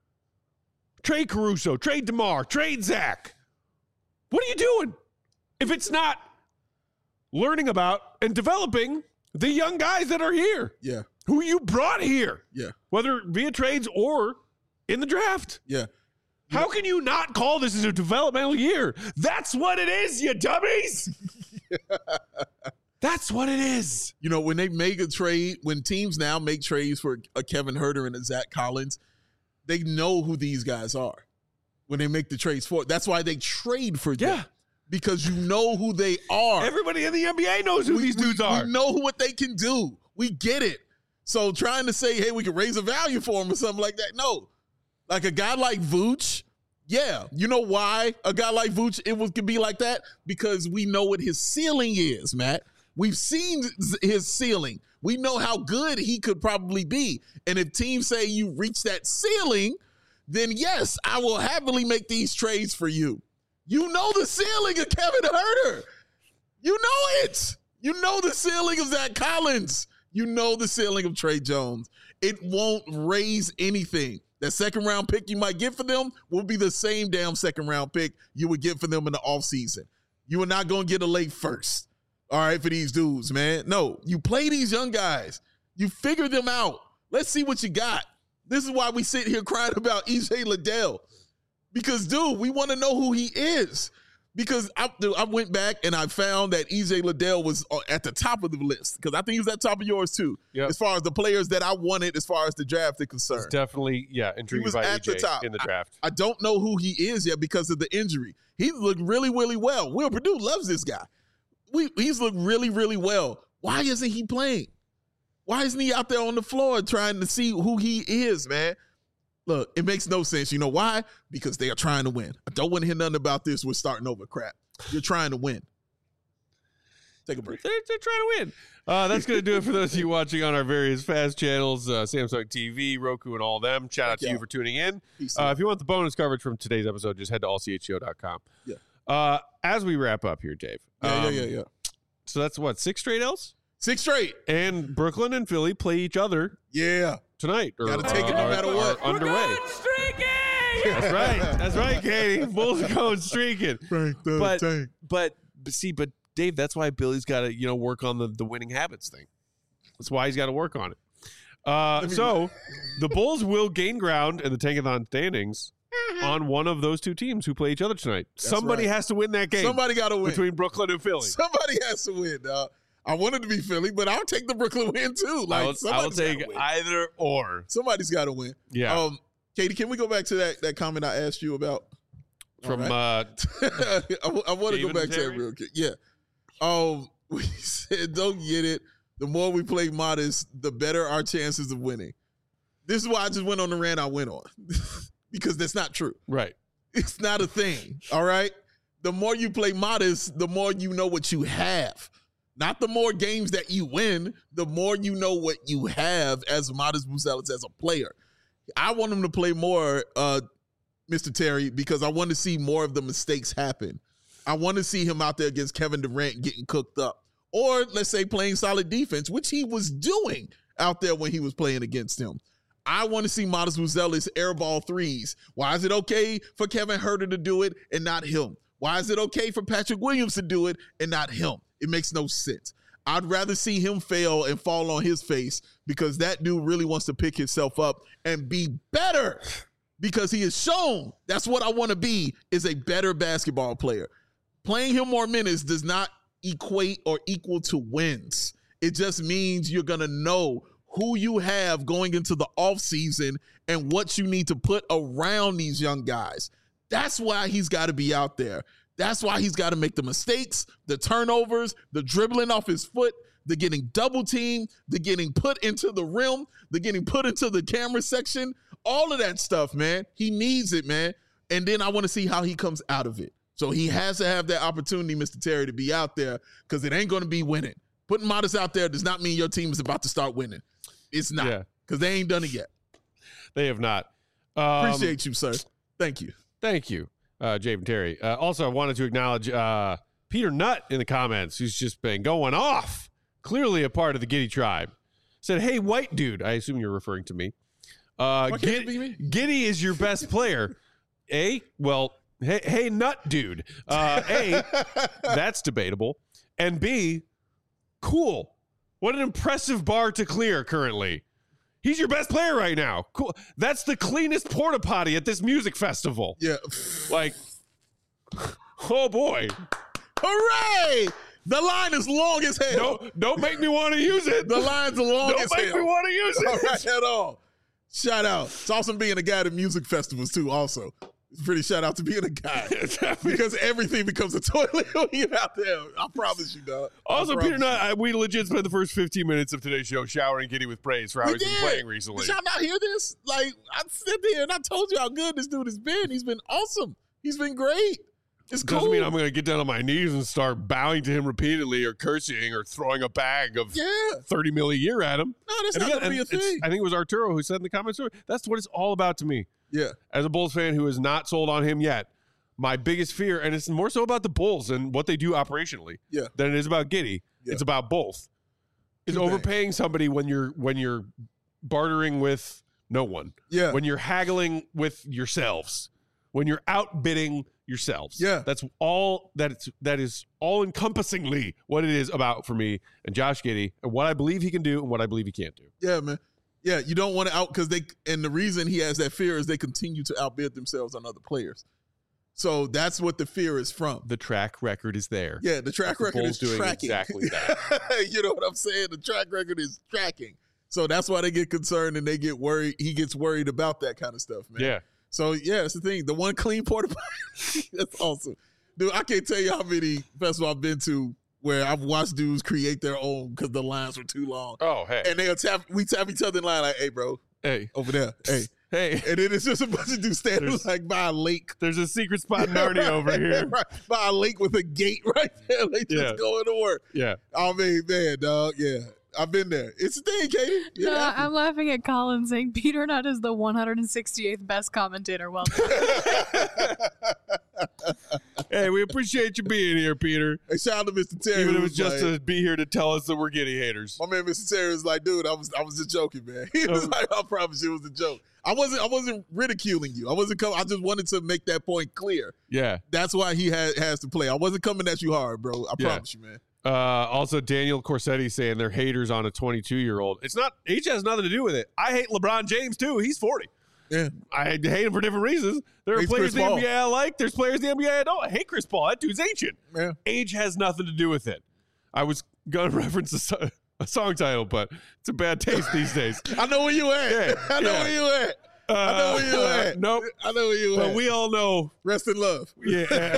S1: Trade Caruso, trade DeMar, trade Zach. What are you doing if it's not learning about and developing the young guys that are here?
S3: Yeah.
S1: Who you brought here.
S3: Yeah.
S1: Whether via trades or in the draft.
S3: Yeah.
S1: How can you not call this as a developmental year? That's what it is, you dummies. That's what it is.
S3: You know, when they make a trade, when teams now make trades for a Kevin Herder and a Zach Collins, they know who these guys are when they make the trades for it. That's why they trade for them.
S1: Yeah.
S3: Because you know who they are.
S1: Everybody in the N B A knows who
S3: we,
S1: these dudes
S3: we,
S1: are.
S3: We know what they can do. We get it. So trying to say, hey, we can raise a value for them or something like that. No. Like a guy like Vooch, yeah. You know why a guy like Vooch, it was, could be like that? Because we know what his ceiling is, Matt. We've seen his ceiling. We know how good he could probably be. And if teams say you reach that ceiling, then yes, I will happily make these trades for you. You know the ceiling of Kevin Herder. You know it. You know the ceiling of Zach Collins. You know the ceiling of Trey Jones. It won't raise anything. That second round pick you might get for them will be the same damn second round pick you would get for them in the offseason. You are not going to get a late first. All right, for these dudes, man. No, you play these young guys. You figure them out. Let's see what you got. This is why we sit here crying about E J Liddell. Because, dude, we want to know who he is. Because I, dude, I went back and I found that E J Liddell was at the top of the list. Because I think he was at the top of yours, too.
S1: Yep.
S3: As far as the players that I wanted, as far as the draft is concerned.
S1: It's definitely, yeah, intrigued by
S3: at
S1: E J
S3: the top.
S1: in the draft.
S3: I, I don't know who he is yet because of the injury. He looked really, really well. Will Purdue loves this guy. We, he's looked really, really well. Why isn't he playing? Why isn't he out there on the floor trying to see who he is, man? Look, it makes no sense. You know why? Because they are trying to win. I don't want to hear nothing about this. We're starting over crap. You're trying to win. Take a break.
S1: They're, they're trying to win. Uh, that's going to do it for those of you watching on our various fast channels, uh, Samsung T V, Roku, and all them. Shout out to
S3: Yeah.
S1: you for tuning in.
S3: Peace
S1: Uh,
S3: out.
S1: if you want the bonus coverage from today's episode, just head to all c h c o dot com.
S3: Yeah.
S1: Uh, as we wrap up here, Dave.
S3: Yeah,
S1: um,
S3: yeah, yeah, yeah.
S1: So that's what, six straight L's?
S3: Six straight.
S1: And Brooklyn and Philly play each other
S3: Yeah.
S1: tonight. Or,
S3: Gotta take it no
S1: are-
S3: matter
S1: are
S3: what.
S1: Underway. That's right. That's right, Katie. Bulls are going streaking.
S3: Frank the
S1: But-
S3: Tank.
S1: But, but see, but Dave, that's why Billy's got to, you know, work on the, the winning habits thing. That's why he's got to work on it. Uh,
S3: me-
S1: so the Bulls will gain ground in the Tankathon standings on one of those two teams who play each other tonight. Somebody
S3: right.
S1: has to win that game
S3: Somebody got to win.
S1: between Brooklyn and Philly.
S3: Somebody has to win, dog. I wanted to be Philly, but I'll take the Brooklyn win too. Like
S1: I will, I will
S3: somebody's
S1: take
S3: gotta win.
S1: either or.
S3: Somebody's got to win.
S1: Yeah.
S3: Um, Katie, can we go back to that that comment I asked you about?
S1: From
S3: All right.
S1: uh,
S3: I, w- I want to go
S1: David
S3: back
S1: and
S3: to that
S1: Terry?
S3: real quick. Yeah. Um, we said, don't get it. The more we play modest, the better our chances of winning. This is why I just went on the rant I went on because that's not true.
S1: right.
S3: It's not a thing. All right. The more you play modest, the more you know what you have. Not the more games that you win, the more you know what you have as Modest Buzelis as a player. I want him to play more, uh, Mister Terry, because I want to see more of the mistakes happen. I want to see him out there against Kevin Durant getting cooked up. Or let's say playing solid defense, which he was doing out there when he was playing against him. I want to see Modest Buzelis airball threes. Why is it okay for Kevin Huerter to do it and not him? Why is it okay for Patrick Williams to do it and not him? It makes no sense. I'd rather see him fail and fall on his face because that dude really wants to pick himself up and be better because he has shown that's what I want to be, is a better basketball player. Playing him more minutes does not equate or equal to wins. It just means you're going to know who you have going into the offseason and what you need to put around these young guys. That's why he's got to be out there. That's why he's got to make the mistakes, the turnovers, the dribbling off his foot, the getting double teamed, the getting put into the rim, the getting put into the camera section, all of that stuff, man. He needs it, man. And then I want to see how he comes out of it. So he has to have that opportunity, Mister Terry, to be out there because it ain't going to be winning. Putting Modest out there does not mean your team is about to start winning. It's not,
S1: Yeah.
S3: because they ain't done it yet.
S1: They have not. Um,
S3: Appreciate you, sir. Thank you.
S1: Thank you, uh, Jave and Terry. Uh, also, I wanted to acknowledge uh, Peter Nutt in the comments, who's just been going off. Clearly a part of the Giddy tribe. Said, hey, white dude. I assume you're referring to me. Uh,
S3: Why can't
S1: Gid-
S3: it be me?
S1: Giddy is your best player. A, well, hey, hey, Nut dude. Uh, A, that's debatable. And B, cool. What an impressive bar to clear currently. He's your best player right now. Cool. That's the cleanest porta potty at this music festival.
S3: Yeah.
S1: Like, oh boy.
S3: Hooray! The line is long as hell.
S1: Don't, don't make me want to use it.
S3: The line's long
S1: Don't
S3: as
S1: make
S3: hell.
S1: me want to use it.
S3: All right, at all. Shout out. It's awesome being a guy at music festivals too. Also, it's pretty shout out to being a guy because everything becomes a toilet when you're out there. I promise you, dog. I
S1: Also,
S3: promise
S1: Peter Nutt, I, we legit spent the first fifteen minutes of today's show showering Giddy with praise for how
S3: We
S1: he's been
S3: did.
S1: playing recently.
S3: Did y'all not hear this? Like, I sit there and I told you how good this dude has been. He's been awesome. He's been great. It's cool.
S1: Doesn't mean I'm going to get down on my knees and start bowing to him repeatedly or cursing or throwing a bag of
S3: yeah.
S1: thirty mil a year at him.
S3: No, that's
S1: And
S3: not
S1: again,
S3: going to be a
S1: and it's-
S3: thing.
S1: I think it was Arturo who said in the comments, that's what it's all about to me.
S3: Yeah.
S1: As a Bulls fan who is not sold on him yet, my biggest fear, and it's more so about the Bulls and what they do operationally
S3: Yeah.
S1: than it is about Giddy.
S3: Yeah.
S1: It's about both. Is
S3: Two
S1: overpaying somebody when you're when you're bartering with no one.
S3: Yeah.
S1: When you're haggling with yourselves. When you're outbidding yourselves.
S3: Yeah.
S1: That's all that it's that is all encompassingly what it is about for me and Josh Giddey and what I believe he can do and what I believe he can't do.
S3: Yeah, man. Yeah, you don't want to out because they and the reason he has that fear is they continue to outbid themselves on other players. So that's what the fear is from.
S1: The track record is there.
S3: Yeah, the track
S1: The
S3: record
S1: Bulls
S3: is
S1: doing
S3: tracking.
S1: exactly that.
S3: You know what I'm saying? The track record is tracking. So that's why they get concerned and they get worried. He gets worried about that kind of stuff, man.
S1: Yeah.
S3: So yeah, that's the thing. The one clean porta that's awesome. Dude, I can't tell you how many festivals I've been to where I've watched dudes create their own because the lines were too long.
S1: Oh, hey.
S3: And they'll tap, we tap each other in line like, hey, bro,
S1: Hey.
S3: over there. Hey.
S1: Hey.
S3: And then it's just a bunch of dudes standing
S1: There's-
S3: like by a lake.
S1: There's a secret spot in Narnia over here.
S3: Right, by a lake with a gate right there. Like just
S1: Yeah.
S3: going to work.
S1: Yeah.
S3: I mean, man, dog, yeah. I've been there. It's a thing, Katie. Yeah,
S2: No, I'm laughing at Colin saying Peter Nutt is the one hundred sixty-eighth best commentator. Well done.
S1: Hey, we appreciate you being here, Peter.
S3: Hey, shout out to Mister Terry.
S1: Even if
S3: who
S1: it was just
S3: like,
S1: to be here to tell us that we're Giddy haters.
S3: my man, Mister Terry was like, dude, I was, I was just joking, man. He was
S1: Oh.
S3: like, I promise you, it was a joke. I wasn't, I wasn't ridiculing you. I wasn't coming. I just wanted to make that point clear.
S1: Yeah.
S3: That's why he had, has to play. I wasn't coming at you hard, bro. I
S1: Yeah.
S3: promise you, man.
S1: Uh, also, Daniel Corsetti saying they're haters on a twenty-two-year-old. It's not, age has nothing to do with it. I hate LeBron James, too. He's forty.
S3: Yeah.
S1: I hate him for different reasons. There are
S3: Hates
S1: players
S3: Chris
S1: in the
S3: Paul.
S1: N B A I like. There's players in the N B A I don't. I hate Chris Paul. That dude's ancient.
S3: Yeah.
S1: Age has nothing to do with it. I was going to reference a, so- a song title, but it's a bad taste these days.
S3: I know where you at.
S1: Yeah,
S3: I know
S1: yeah.
S3: where you at.
S1: Uh,
S3: I know where you at.
S1: Nope.
S3: I know where you
S1: But
S3: at.
S1: we all know.
S3: Rest in love.
S1: Yeah.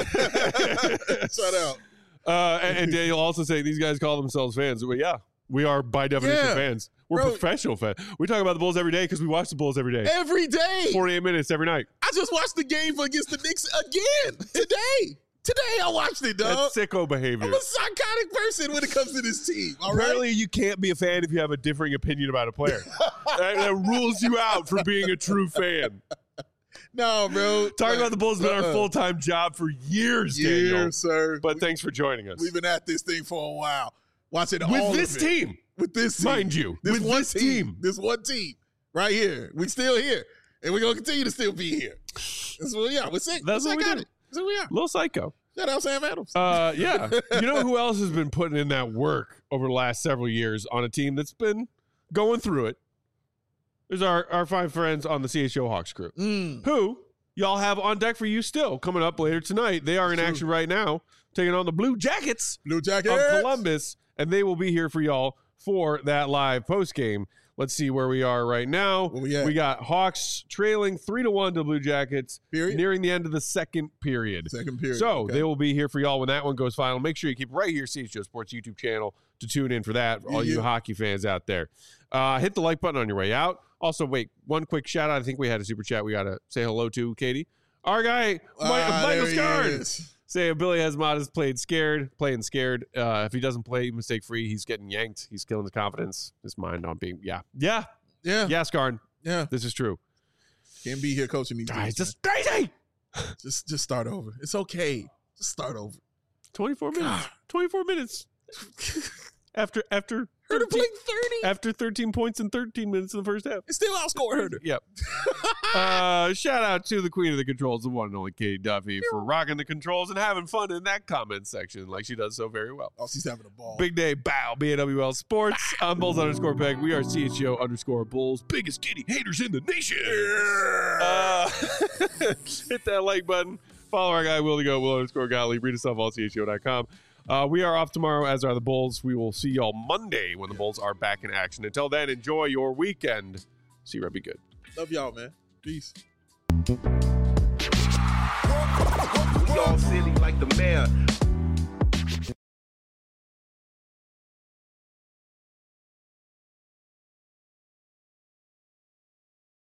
S3: Shout out.
S1: Uh, and, and Daniel also saying these guys call themselves fans. Well, yeah, we are by definition
S3: Yeah.
S1: fans. We're
S3: Bro.
S1: professional fans. We talk about the Bulls every day because we watch the Bulls every day.
S3: Every day.
S1: forty-eight minutes every night.
S3: I just watched the game against the Knicks again today. Today I watched it, dog.
S1: That's sicko behavior.
S3: I'm a psychotic person when it comes to this team. All right.
S1: Apparently, you can't be a fan if you have a differing opinion about a player. that, that rules you out from being a true fan.
S3: No, bro.
S1: Talking about the Bulls has been our
S3: Uh-uh.
S1: full-time job for years,
S3: Years,
S1: Daniel.
S3: sir.
S1: But thanks for joining us.
S3: We've been at this thing for a while. Watching all
S1: With
S3: of
S1: this
S3: it.
S1: team,
S3: With this team.
S1: mind you,
S3: This
S1: with
S3: one
S1: this
S3: team.
S1: team.
S3: This one team. Right here. We still here. And we're gonna continue to still be here. That's what we are. We're sick.
S1: That's
S3: we're
S1: what we do.
S3: psychotic. That's what we are.
S1: Little psycho.
S3: Shout out Sam Adams.
S1: Uh, yeah. You know who else has been putting in that work over the last several years on a team that's been going through it? There's our, our fine friends on the C H O Hawks crew,
S3: Mm.
S1: who y'all have on deck for you still coming up later tonight. They are in
S3: True.
S1: action right now, taking on the Blue Jackets
S3: Blue Jacket.
S1: of Columbus, and they will be here for y'all for that live post game. Let's see where we are right now.
S3: Where we at?
S1: got Hawks trailing three to one to Blue Jackets,
S3: Period.
S1: nearing the end of the second period.
S3: Second period.
S1: So
S3: Okay.
S1: they will be here for y'all when that one goes final. Make sure you keep right here, C H O Sports YouTube channel, to tune in for that. For all
S3: Yeah,
S1: you
S3: yeah.
S1: hockey fans out there, uh, hit the like button on your way out. Also, wait, one quick shout out. I think we had a super chat. We got to say hello to Katie, our guy, Mi-
S3: Ah,
S1: Michael
S3: there he
S1: Scarn.
S3: is.
S1: Say Billy Hasmod has played scared, playing scared. Uh, if he doesn't play mistake free, he's getting yanked. He's killing his confidence, his mind on being. Yeah, yeah,
S3: Yeah.
S1: yeah, Scarn.
S3: Yeah.
S1: This is true.
S3: Can't be here coaching these
S1: Guys,
S3: dudes.
S1: just crazy.
S3: man. Just just start over. It's okay. Just start over.
S1: Twenty-four minutes.
S3: God.
S1: Twenty-four minutes. After after
S3: Herder
S1: thirteen,
S3: played thirty
S1: after thirteen points in thirteen minutes in the first half.
S3: and still outscored Herder.
S1: Yep. uh, shout out to the queen of the controls, the one and only Katie Duffy, for rocking the controls and having fun in that comment section like she does so very well.
S3: Oh, she's having a ball.
S1: Big day, bow, B A W L Sports. I'm Bulls underscore Peg. We are C H O underscore Bulls. Biggest kitty haters in the nation. Uh, hit that like button. Follow our guy, Will to Go, Will underscore Gottlieb. Read us off all C H O dot com. Uh, we are off tomorrow, as are the Bulls. We will see y'all Monday when the Bulls are back in action. Until then, enjoy your weekend. See you, be good.
S3: Love y'all, man. Peace.
S4: We all silly like the mayor.